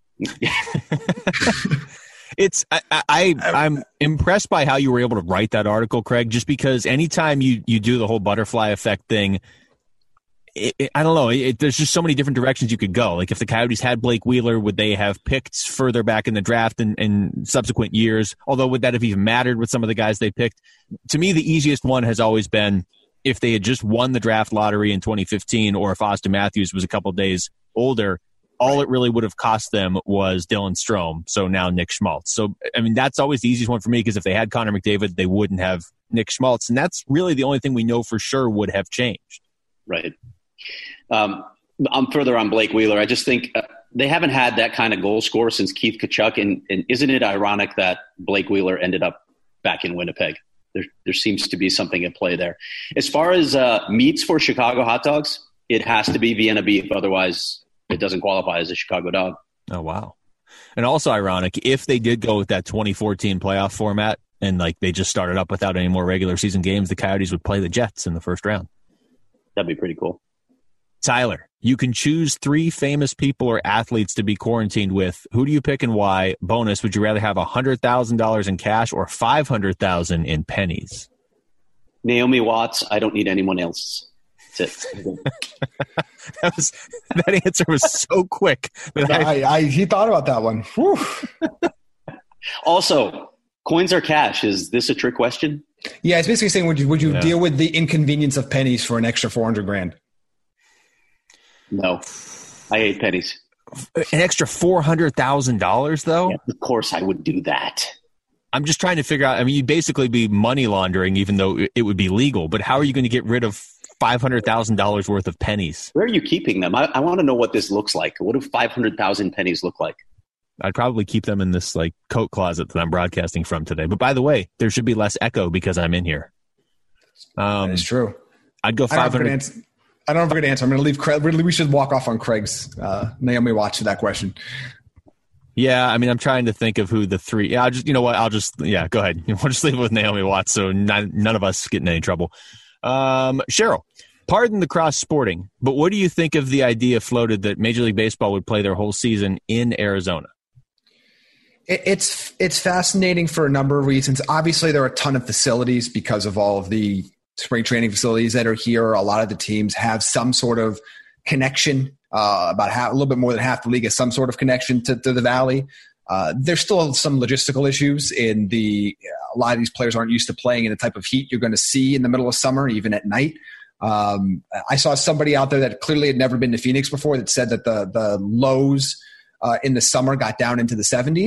It's I, I I'm impressed by how you were able to write that article, Craig. Just because anytime you you do the whole butterfly effect thing, it, it, I don't know. It, there's just so many different directions you could go. Like if the Coyotes had Blake Wheeler, would they have picked further back in the draft in, in subsequent years? Although would that have even mattered with some of the guys they picked? To me, the easiest one has always been if they had just won the draft lottery in twenty fifteen, or if Austin Matthews was a couple days older. All it really would have cost them was Dylan Strome, so now Nick Schmaltz. So, I mean, that's always the easiest one for me because if they had Connor McDavid, they wouldn't have Nick Schmaltz, and that's really the only thing we know for sure would have changed. Right. Um, I'm further on Blake Wheeler. I just think uh, they haven't had that kind of goal scorer since Keith Tkachuk, and, and isn't it ironic that Blake Wheeler ended up back in Winnipeg? There, there seems to be something at play there. As far as uh, meats for Chicago hot dogs, it has to be Vienna beef, otherwise it doesn't qualify as a Chicago dog. Oh, wow. And also ironic, if they did go with that twenty fourteen playoff format and like they just started up without any more regular season games, the Coyotes would play the Jets in the first round. That'd be pretty cool. Tyler, you can choose three famous people or athletes to be quarantined with. Who do you pick and why? Bonus, would you rather have one hundred thousand dollars in cash or five hundred thousand dollars in pennies? Naomi Watts, I don't need anyone else. That's it. that, was, that answer was so quick. That I, I, I, he thought about that one. Whew. Also, coins are cash. Is this a trick question? Yeah, it's basically saying, would you would you Yeah. deal with the inconvenience of pennies for an extra four hundred grand? No. I hate pennies. an extra four hundred thousand dollars, though? Yeah, of course I would do that. I'm just trying to figure out. I mean, you'd basically be money laundering, even though it would be legal. But how are you going to get rid of five hundred thousand dollars worth of pennies? Where are you keeping them? I, I want to know what this looks like. What do five hundred thousand pennies look like? I'd probably keep them in this like coat closet that I'm broadcasting from today. But by the way, there should be less echo because I'm in here. Um, That's true. I'd go I don't five hundred. have a good answer. I don't have a good answer. I'm going to leave Craig. Really, we should walk off on Craig's uh, Naomi Watts for that question. Yeah, I mean, I'm trying to think of who the three. Yeah, I'll just you know what? I'll just yeah, go ahead. We'll just leave it with Naomi Watts, so not, none of us get in any trouble. Um, Cheryl, pardon the cross sporting, but what do you think of the idea floated that Major League Baseball would play their whole season in Arizona? It, it's it's fascinating for a number of reasons. Obviously, there are a ton of facilities because of all of the spring training facilities that are here. A lot of the teams have some sort of connection. Uh, about half, a little bit more than half the league has some sort of connection to, to the Valley. Uh, there's still some logistical issues in the, a lot of these players aren't used to playing in the type of heat you're going to see in the middle of summer, even at night. Um, I saw somebody out there that clearly had never been to Phoenix before that said that the, the lows uh, in the summer got down into the seventies.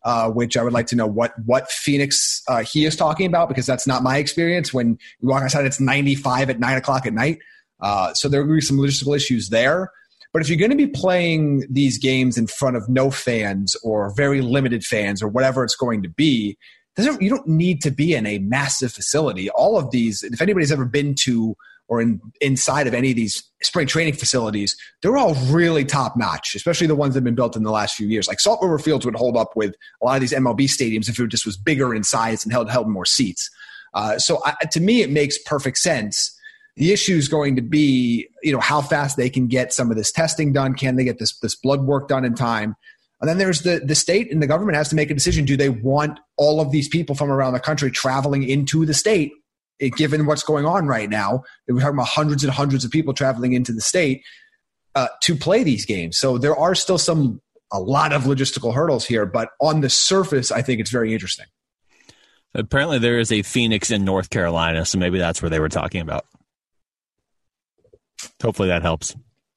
uh, which I would like to know what what Phoenix uh, he is talking about, because that's not my experience. When you walk outside, it's ninety-five at nine o'clock at night. Uh, so there will be some logistical issues there. But if you're going to be playing these games in front of no fans or very limited fans or whatever it's going to be, doesn't, you don't need to be in a massive facility. All of these, if anybody's ever been to or in, inside of any of these spring training facilities, they're all really top notch, especially the ones that have been built in the last few years. Like Salt River Fields would hold up with a lot of these M L B stadiums if it just was bigger in size and held, held more seats. Uh, so I, to me, it makes perfect sense. The issue is going to be, you know, how fast they can get some of this testing done. Can they get this this blood work done in time? And then there's the the state and the government has to make a decision. Do they want all of these people from around the country traveling into the state, given what's going on right now? We're talking about hundreds and hundreds of people traveling into the state uh, to play these games. So there are still some a lot of logistical hurdles here, but on the surface, I think it's very interesting. Apparently, there is a Phoenix in North Carolina, so maybe that's where they were talking about. Hopefully that helps.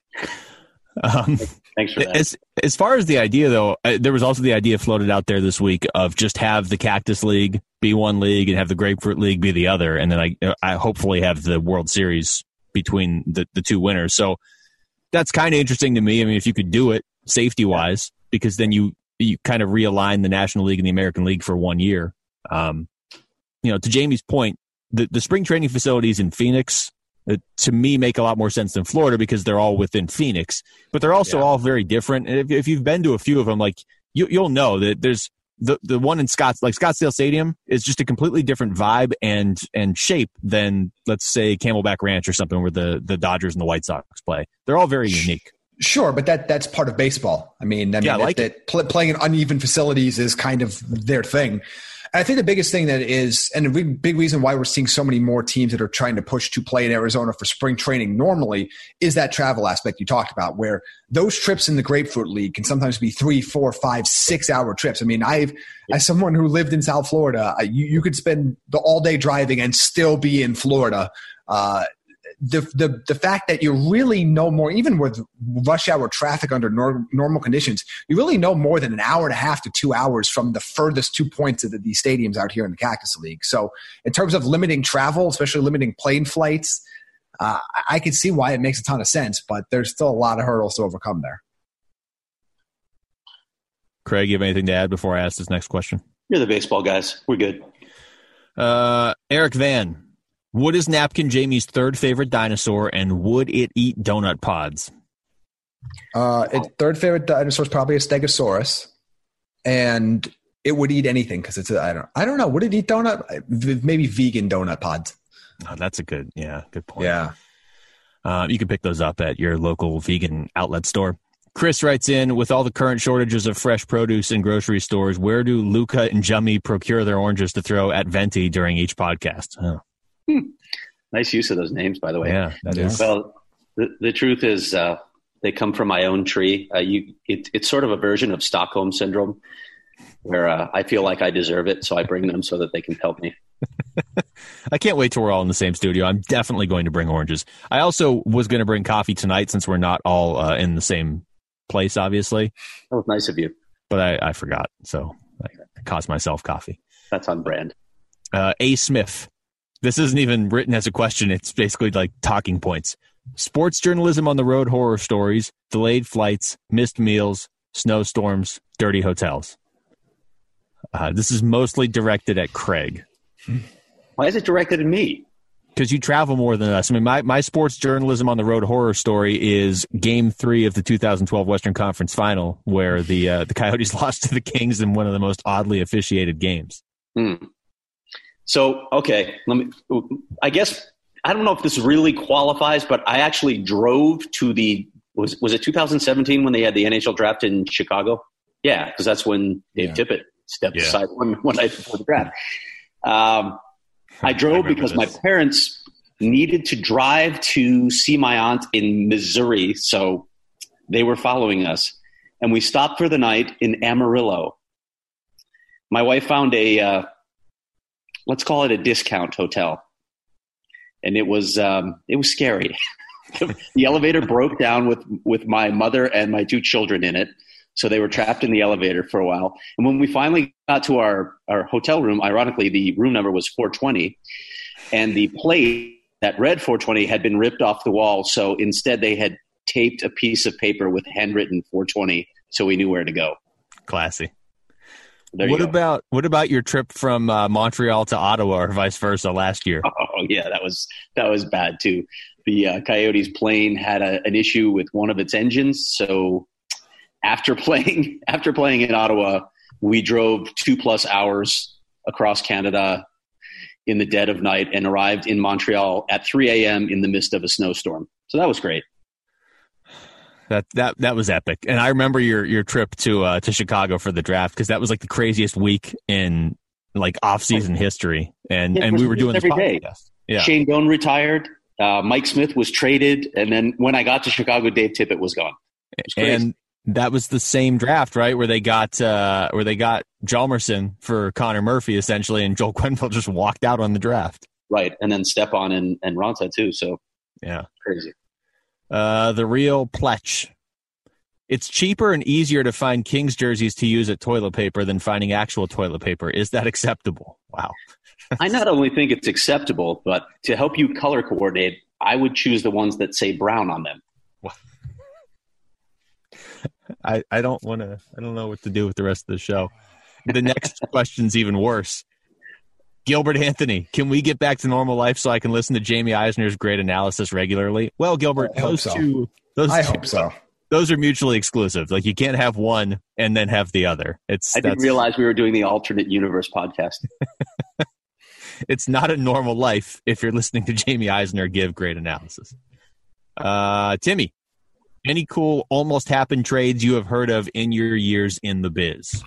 Um, Thanks for that. As, as far as the idea, though, uh, there was also the idea floated out there this week of just have the Cactus League be one league and have the Grapefruit League be the other, and then I, I hopefully have the World Series between the, the two winners. So that's kind of interesting to me. I mean, if you could do it safety-wise, because then you, you kind of realign the National League and the American League for one year. Um, you know, to Jamie's point, the, the spring training facilities in Phoenix, Uh, to me, make a lot more sense than Florida because they're all within Phoenix, but they're also yeah. all very different. And if, if you've been to a few of them, like you, you'll know that there's the, the one in Scotts, like Scottsdale Stadium is just a completely different vibe and, and shape than, let's say, Camelback Ranch or something where the, the Dodgers and the White Sox play. They're all very unique. Sure, but that that's part of baseball. I mean, I mean yeah, I that, like that pl- playing in uneven facilities is kind of their thing. I think the biggest thing that is, and a big, big reason why we're seeing so many more teams that are trying to push to play in Arizona for spring training normally is that travel aspect you talked about, where those trips in the Grapefruit League can sometimes be three, four, five, six hour trips. I mean, I've, as someone who lived in South Florida, you, you could spend the all day driving and still be in Florida. Uh, The, the the fact that you really know more, even with rush hour traffic under nor- normal conditions, you really know more than an hour and a half to two hours from the furthest two points of the, these stadiums out here in the Cactus League. So in terms of limiting travel, especially limiting plane flights, uh, I can see why it makes a ton of sense, but there's still a lot of hurdles to overcome there. Craig, you have anything to add before I ask this next question? You're the baseball guys. We're good. Uh, Eric Van. What is Napkin Jamie's third favorite dinosaur, and would it eat donut pods? Uh, its third favorite dinosaur is probably a Stegosaurus, and it would eat anything because it's a, I don't I don't know. Would it eat donut? Maybe vegan donut pods. Oh, that's a good yeah good point. Yeah, uh, you can pick those up at your local vegan outlet store. Chris writes in, with all the current shortages of fresh produce in grocery stores, where do Luca and Jummy procure their oranges to throw at Venti during each podcast? Oh. Hmm. Nice use of those names, by the way. Yeah, that is. Well, the, the truth is uh, they come from my own tree. Uh, you, it, it's sort of a version of Stockholm Syndrome where uh, I feel like I deserve it, so I bring them so that they can help me. I can't wait till we're all in the same studio. I'm definitely going to bring oranges. I also was going to bring coffee tonight since we're not all uh, in the same place, obviously. That was nice of you. But I, I forgot, so I cost myself coffee. That's on brand. Uh, A. Smith. This isn't even written as a question. It's basically like talking points. Sports journalism on the road, horror stories, delayed flights, missed meals, snowstorms, dirty hotels. Uh, this is mostly directed at Craig. Why is it directed at me? Because you travel more than us. I mean, my, my sports journalism on the road horror story is game three of the two thousand twelve Western Conference Final, where the uh, the Coyotes lost to the Kings in one of the most oddly officiated games. Hmm. So, okay, let me, I guess, I don't know if this really qualifies, but I actually drove to the, was was it two thousand seventeen when they had the N H L draft in Chicago? Yeah, because that's when Dave yeah. Tippett stepped yeah. aside one, one night before the draft. Um, I drove I because this. my parents needed to drive to see my aunt in Missouri, so they were following us. And we stopped for the night in Amarillo. My wife found a... Uh, let's call it a discount hotel. And it was, um, it was scary. The elevator broke down with, with my mother and my two children in it. So they were trapped in the elevator for a while. And when we finally got to our, our hotel room, ironically, the room number was four twenty. And the plate that read four twenty had been ripped off the wall. So instead they had taped a piece of paper with handwritten four twenty so we knew where to go. Classy. There what you go. about what about your trip from uh, Montreal to Ottawa or vice versa last year? Oh, yeah, that was that was bad, too. The uh, Coyotes plane had a, an issue with one of its engines. So after playing after playing in Ottawa, we drove two plus hours across Canada in the dead of night and arrived in Montreal at three a.m. in the midst of a snowstorm. So that was great. That that that was epic, and I remember your your trip to uh, to Chicago for the draft because that was like the craziest week in like off season history, and Yeah, and we were doing this every day. podcast. Yeah, Shane Doan retired. Uh, Mike Smith was traded, and then when I got to Chicago, Dave Tippett was gone. It was crazy. And that was the same draft, right? Where they got uh, where they got Hjalmarsson for Connor Murphy essentially, and Joel Quenneville just walked out on the draft. Right, and then Stepan and and Ronta too. So yeah, crazy. Uh, the real Pletch. It's cheaper and easier to find Kings jerseys to use at toilet paper than finding actual toilet paper. Is that acceptable? Wow. I not only think it's acceptable, but to help you color coordinate, I would choose the ones that say brown on them. I, I don't want to, I don't know what to do with the rest of the show. The next question's even worse. Gilbert Anthony, can we get back to normal life so I can listen to Jamie Eisner's great analysis regularly? Well, Gilbert, I hope those so. two, those I two, hope so. Those are mutually exclusive. Like you can't have one and then have the other. It's I didn't that's, realize we were doing the alternate universe podcast. it's not a normal life if you're listening to Jamie Eisner give great analysis. Uh, Timmy, any cool almost happened trades you have heard of in your years in the biz?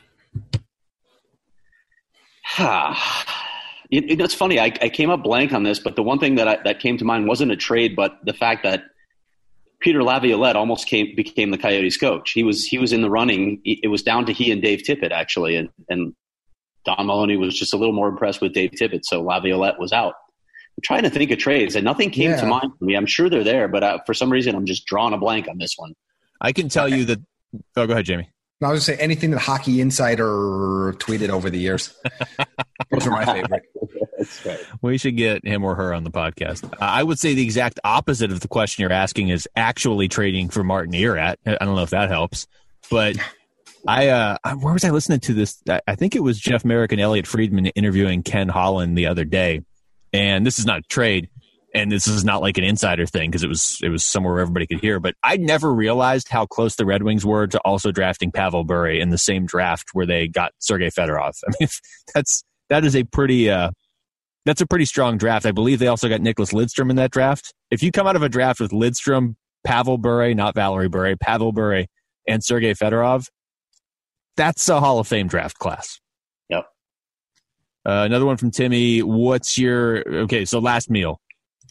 You know, it's funny. I, I came up blank on this, but the one thing that I, that came to mind wasn't a trade, but the fact that Peter Laviolette almost came became the Coyotes coach. He was he was in the running. It was down to he and Dave Tippett actually, and, and Don Maloney was just a little more impressed with Dave Tippett, so Laviolette was out. I'm trying to think of trades, and nothing came Yeah. to mind for me. I'm sure they're there, but uh, for some reason, I'm just drawing a blank on this one. I can tell you that. Oh, go ahead, Jamie. I was going to say anything that Hockey Insider tweeted over the years. Those are my favorite. That's right. We should get him or her on the podcast. Uh, I would say the exact opposite of the question you're asking is actually trading for Martin Erat. I don't know if that helps, but I uh, where was I listening to this? I think it was Jeff Merrick and Elliot Friedman interviewing Ken Holland the other day, and this is not a trade, and this is not like an insider thing because it was it was somewhere where everybody could hear. But I never realized how close the Red Wings were to also drafting Pavel Bure in the same draft where they got Sergei Fedorov. I mean, that's that is a pretty. Uh, That's a pretty strong draft. I believe they also got Nicholas Lidstrom in that draft. If you come out of a draft with Lidstrom, Pavel Bure, not Valerie Bure, Pavel Bure, and Sergei Fedorov, that's a Hall of Fame draft class. Yep. Uh, another one from Timmy. What's your – okay, so last meal.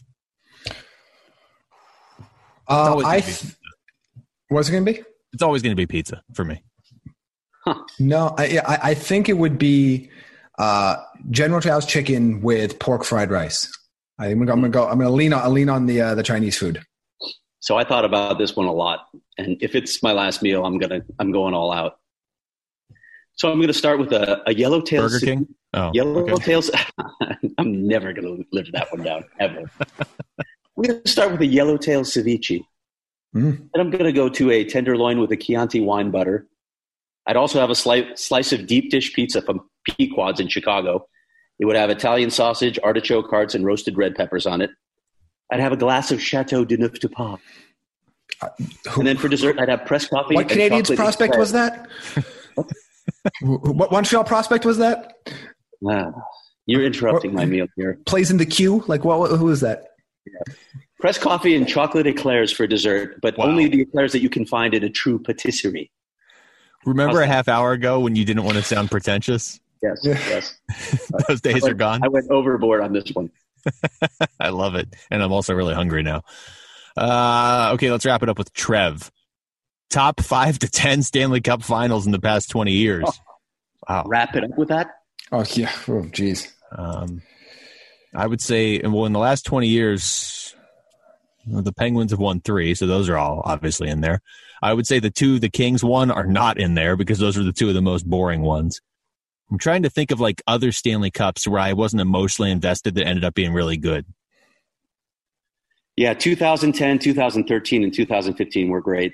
Uh, always I gonna be th- what's it going to be? It's always going to be pizza for me. No, I, I, I think it would be uh, General Chow's chicken with pork fried rice. I think I'm going to go. I'm going to lean on. I'll lean on the uh, the Chinese food. So I thought about this one a lot, and if it's my last meal, I'm gonna I'm going all out. So I'm gonna start with a, a yellowtail Burger King. Oh, Yellowtail. okay. I'm never gonna live that one down ever. I'm gonna start with a yellowtail ceviche, Mm. and I'm gonna go to a tenderloin with a Chianti wine butter. I'd also have a slice slice of deep dish pizza from Pequod's in Chicago. It would have Italian sausage, artichoke hearts, and roasted red peppers on it. I'd have a glass of Chateau de Neuf de Pas. Uh, And then for dessert, I'd have pressed coffee. What and Canadian's chocolate prospect eclair. was that? What Montreal prospect was that? Wow. You're interrupting my meal here. Plays in the queue? Like what? Who is that? Pressed coffee and chocolate eclairs for dessert, but Wow. only the eclairs that you can find in a true patisserie. Remember a half hour ago when you didn't want to sound pretentious? Yes, Yeah. yes. Those days I went, are gone. I went overboard on this one. I love it. And I'm also really hungry now. Uh, okay, let's wrap it up with Trev. Top five to ten Stanley Cup finals in the past twenty years. Wow. Wrap it up with that. Oh yeah. Oh jeez. Um, I would say, well, in the last twenty years, The Penguins have won three, so those are all obviously in there. I would say the two the Kings won are not in there because those are the two of the most boring ones. I'm trying to think of like other Stanley Cups where I wasn't emotionally invested that ended up being really good. Yeah, two thousand ten, two thousand thirteen, and two thousand fifteen were great.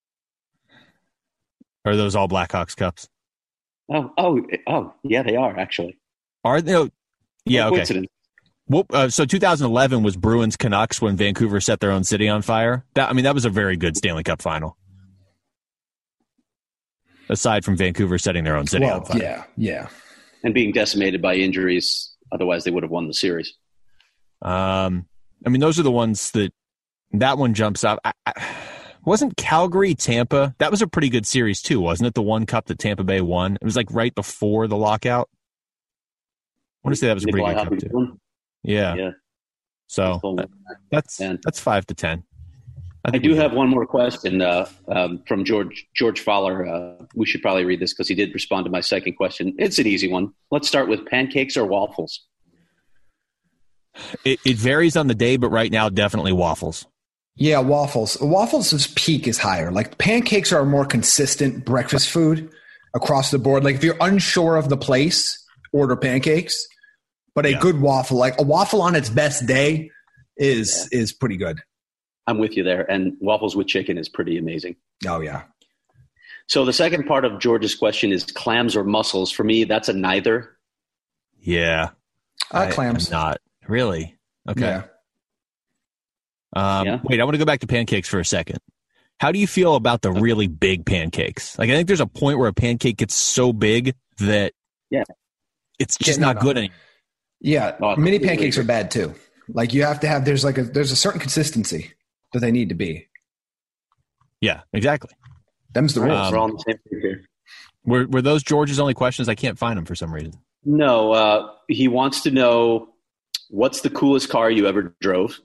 Are those all Blackhawks Cups? Oh, oh, oh, yeah, they are actually. Are they? Oh, yeah, no okay. Well, uh, so two thousand eleven was Bruins Canucks when Vancouver set their own city on fire. That I mean, that was a very good Stanley Cup final. Aside from Vancouver setting their own city well, on fire. Yeah, yeah. And being decimated by injuries. Otherwise, they would have won the series. Um, I mean, those are the ones that that one jumps out. I, I, wasn't Calgary Tampa? That was a pretty good series too, wasn't it? The one cup that Tampa Bay won. It was like right before the lockout. I want to say that was a pretty good cup too. Yeah. yeah. So that, that's Man. that's five to ten. I, I do have one more question uh, um, from George George Fowler. Uh, we should probably read this because he did respond to my second question. It's an easy one. Let's start with pancakes or waffles. It, it varies on the day, but right now, definitely waffles. Yeah, waffles. Waffles' peak is higher. Like pancakes are a more consistent breakfast food across the board. Like if you're unsure of the place, order pancakes. But a yeah. good waffle, like a waffle on its best day, is yeah. is pretty good. I'm with you there. And waffles with chicken is pretty amazing. Oh, yeah. So the second part of George's question is clams or mussels. For me, that's a neither. Yeah. Uh, I, clams. I'm not. Really? Okay. Yeah. Um, yeah. Wait, I want to go back to pancakes for a second. How do you feel about the really big pancakes? Like, I think there's a point where a pancake gets so big that yeah, it's just yeah, not no, good no. anymore. Yeah. Oh, mini pancakes are bad too. Like you have to have, there's like a, there's a certain consistency that they need to be. Yeah, exactly. Them's the rules. Um, We're all on the same page here. Were, were those George's only questions? I can't find them for some reason. No, uh, he wants to know what's the coolest car you ever drove?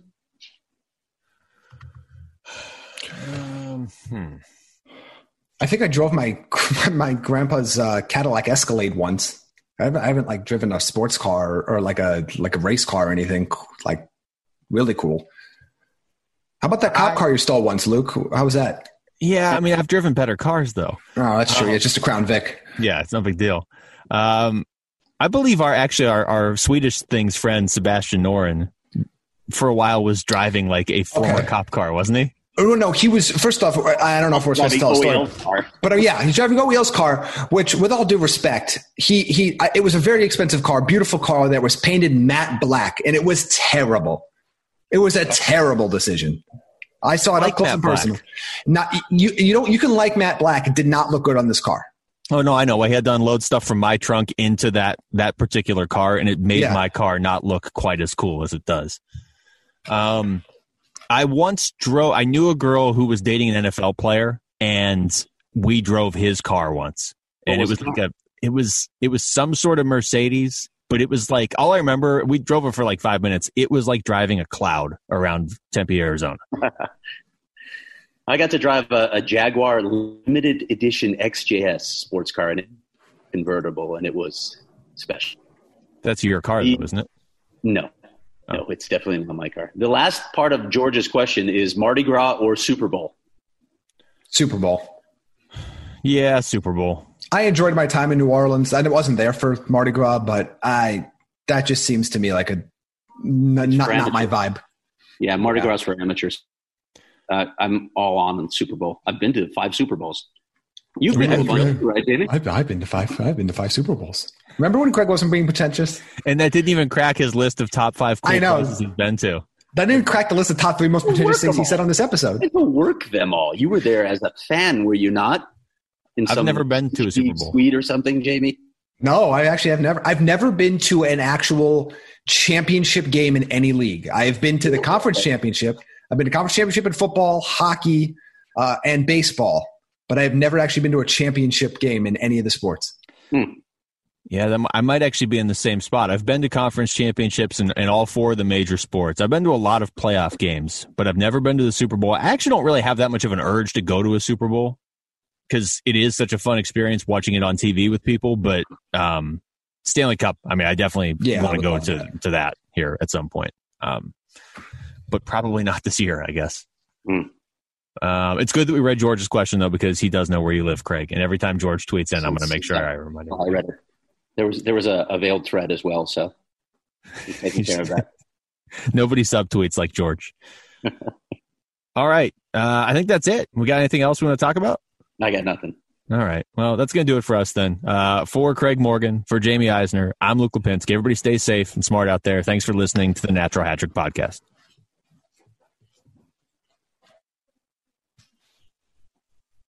Um, hmm. I think I drove my my grandpa's uh, Cadillac Escalade once. I haven't, I haven't like driven a sports car or, or like a like a race car or anything like really cool. How about that cop I, car you stole once, Luke? How was that? Yeah, I mean, I've driven better cars though. Oh, that's true. Um, it's just a Crown Vic. Yeah, it's no big deal. Um, I believe our actually our, our Swedish Things friend Sebastian Noren for a while was driving like a former okay. cop car, wasn't he? Oh, no, he was, first off, I don't know if we're supposed to tell a story. Car. But uh, yeah, he's driving O E L's car, which with all due respect, he, he, it was a very expensive car, beautiful car that was painted matte black, and it was terrible. It was a terrible decision. I saw it like up close and personal. Not, you, you don't, you can like matte black. It did not look good on this car. Oh, no, I know. I had to unload stuff from my trunk into that, that particular car, and it made Yeah. my car not look quite as cool as it does. Um, I once drove, I knew a girl who was dating an N F L player, and we drove his car once. And What was it was the like a, it was, it was some sort of Mercedes, but it was like, all I remember, we drove it for like five minutes. It was like driving a cloud around Tempe, Arizona. I got to drive a, a Jaguar limited edition X J S sports car, and it convertible, and it was special. That's your car, though, isn't it? No. No, it's definitely not my car. The last part of George's question is Mardi Gras or Super Bowl? Super Bowl. Yeah, Super Bowl. I enjoyed my time in New Orleans. I wasn't there for Mardi Gras, but I that just seems to me like a n- not not my vibe. Yeah, Mardi Yeah. Gras for amateurs. Uh, I'm all on in Super Bowl. I've been to five Super Bowls. You've been Really? to one, right, David? I've, I've been to five. I've been to five Super Bowls. Remember when Craig wasn't being pretentious? And that didn't even crack his list of top five cool I know. places he's been to. That didn't crack the list of top three most Well, pretentious work things them he said all. on this episode. I don't work them all. You were there as a fan, were you not? In I've never been to a Super Bowl. Suite or something, Jamie? No, I actually have never. I've never been to an actual championship game in any league. I have been to the conference championship. I've been to conference championship in football, hockey, uh, and baseball. But I've never actually been to a championship game in any of the sports. Hmm. Yeah, that, I might actually be in the same spot. I've been to conference championships in, in all four of the major sports. I've been to a lot of playoff games, but I've never been to the Super Bowl. I actually don't really have that much of an urge to go to a Super Bowl because it is such a fun experience watching it on T V with people. But um, Stanley Cup, I mean, I definitely Yeah, want I to go would to, love that. to that here at some point. Um, but probably not this year, I guess. Mm. Um, it's good that we read George's question, though, because he does know where you live, Craig. And every time George tweets in, I'm going to make sure I remind him. I read it. There was there was a, a veiled thread as well, so he's taking care of that. Nobody subtweets like George. All right. Uh, I think that's it. We got anything else we want to talk about? I got nothing. All right. Well, that's going to do it for us then. Uh, for Craig Morgan, for Jamie Eisner, I'm Luke Lipinski. Everybody stay safe and smart out there. Thanks for listening to the Natural Hat Trick Podcast.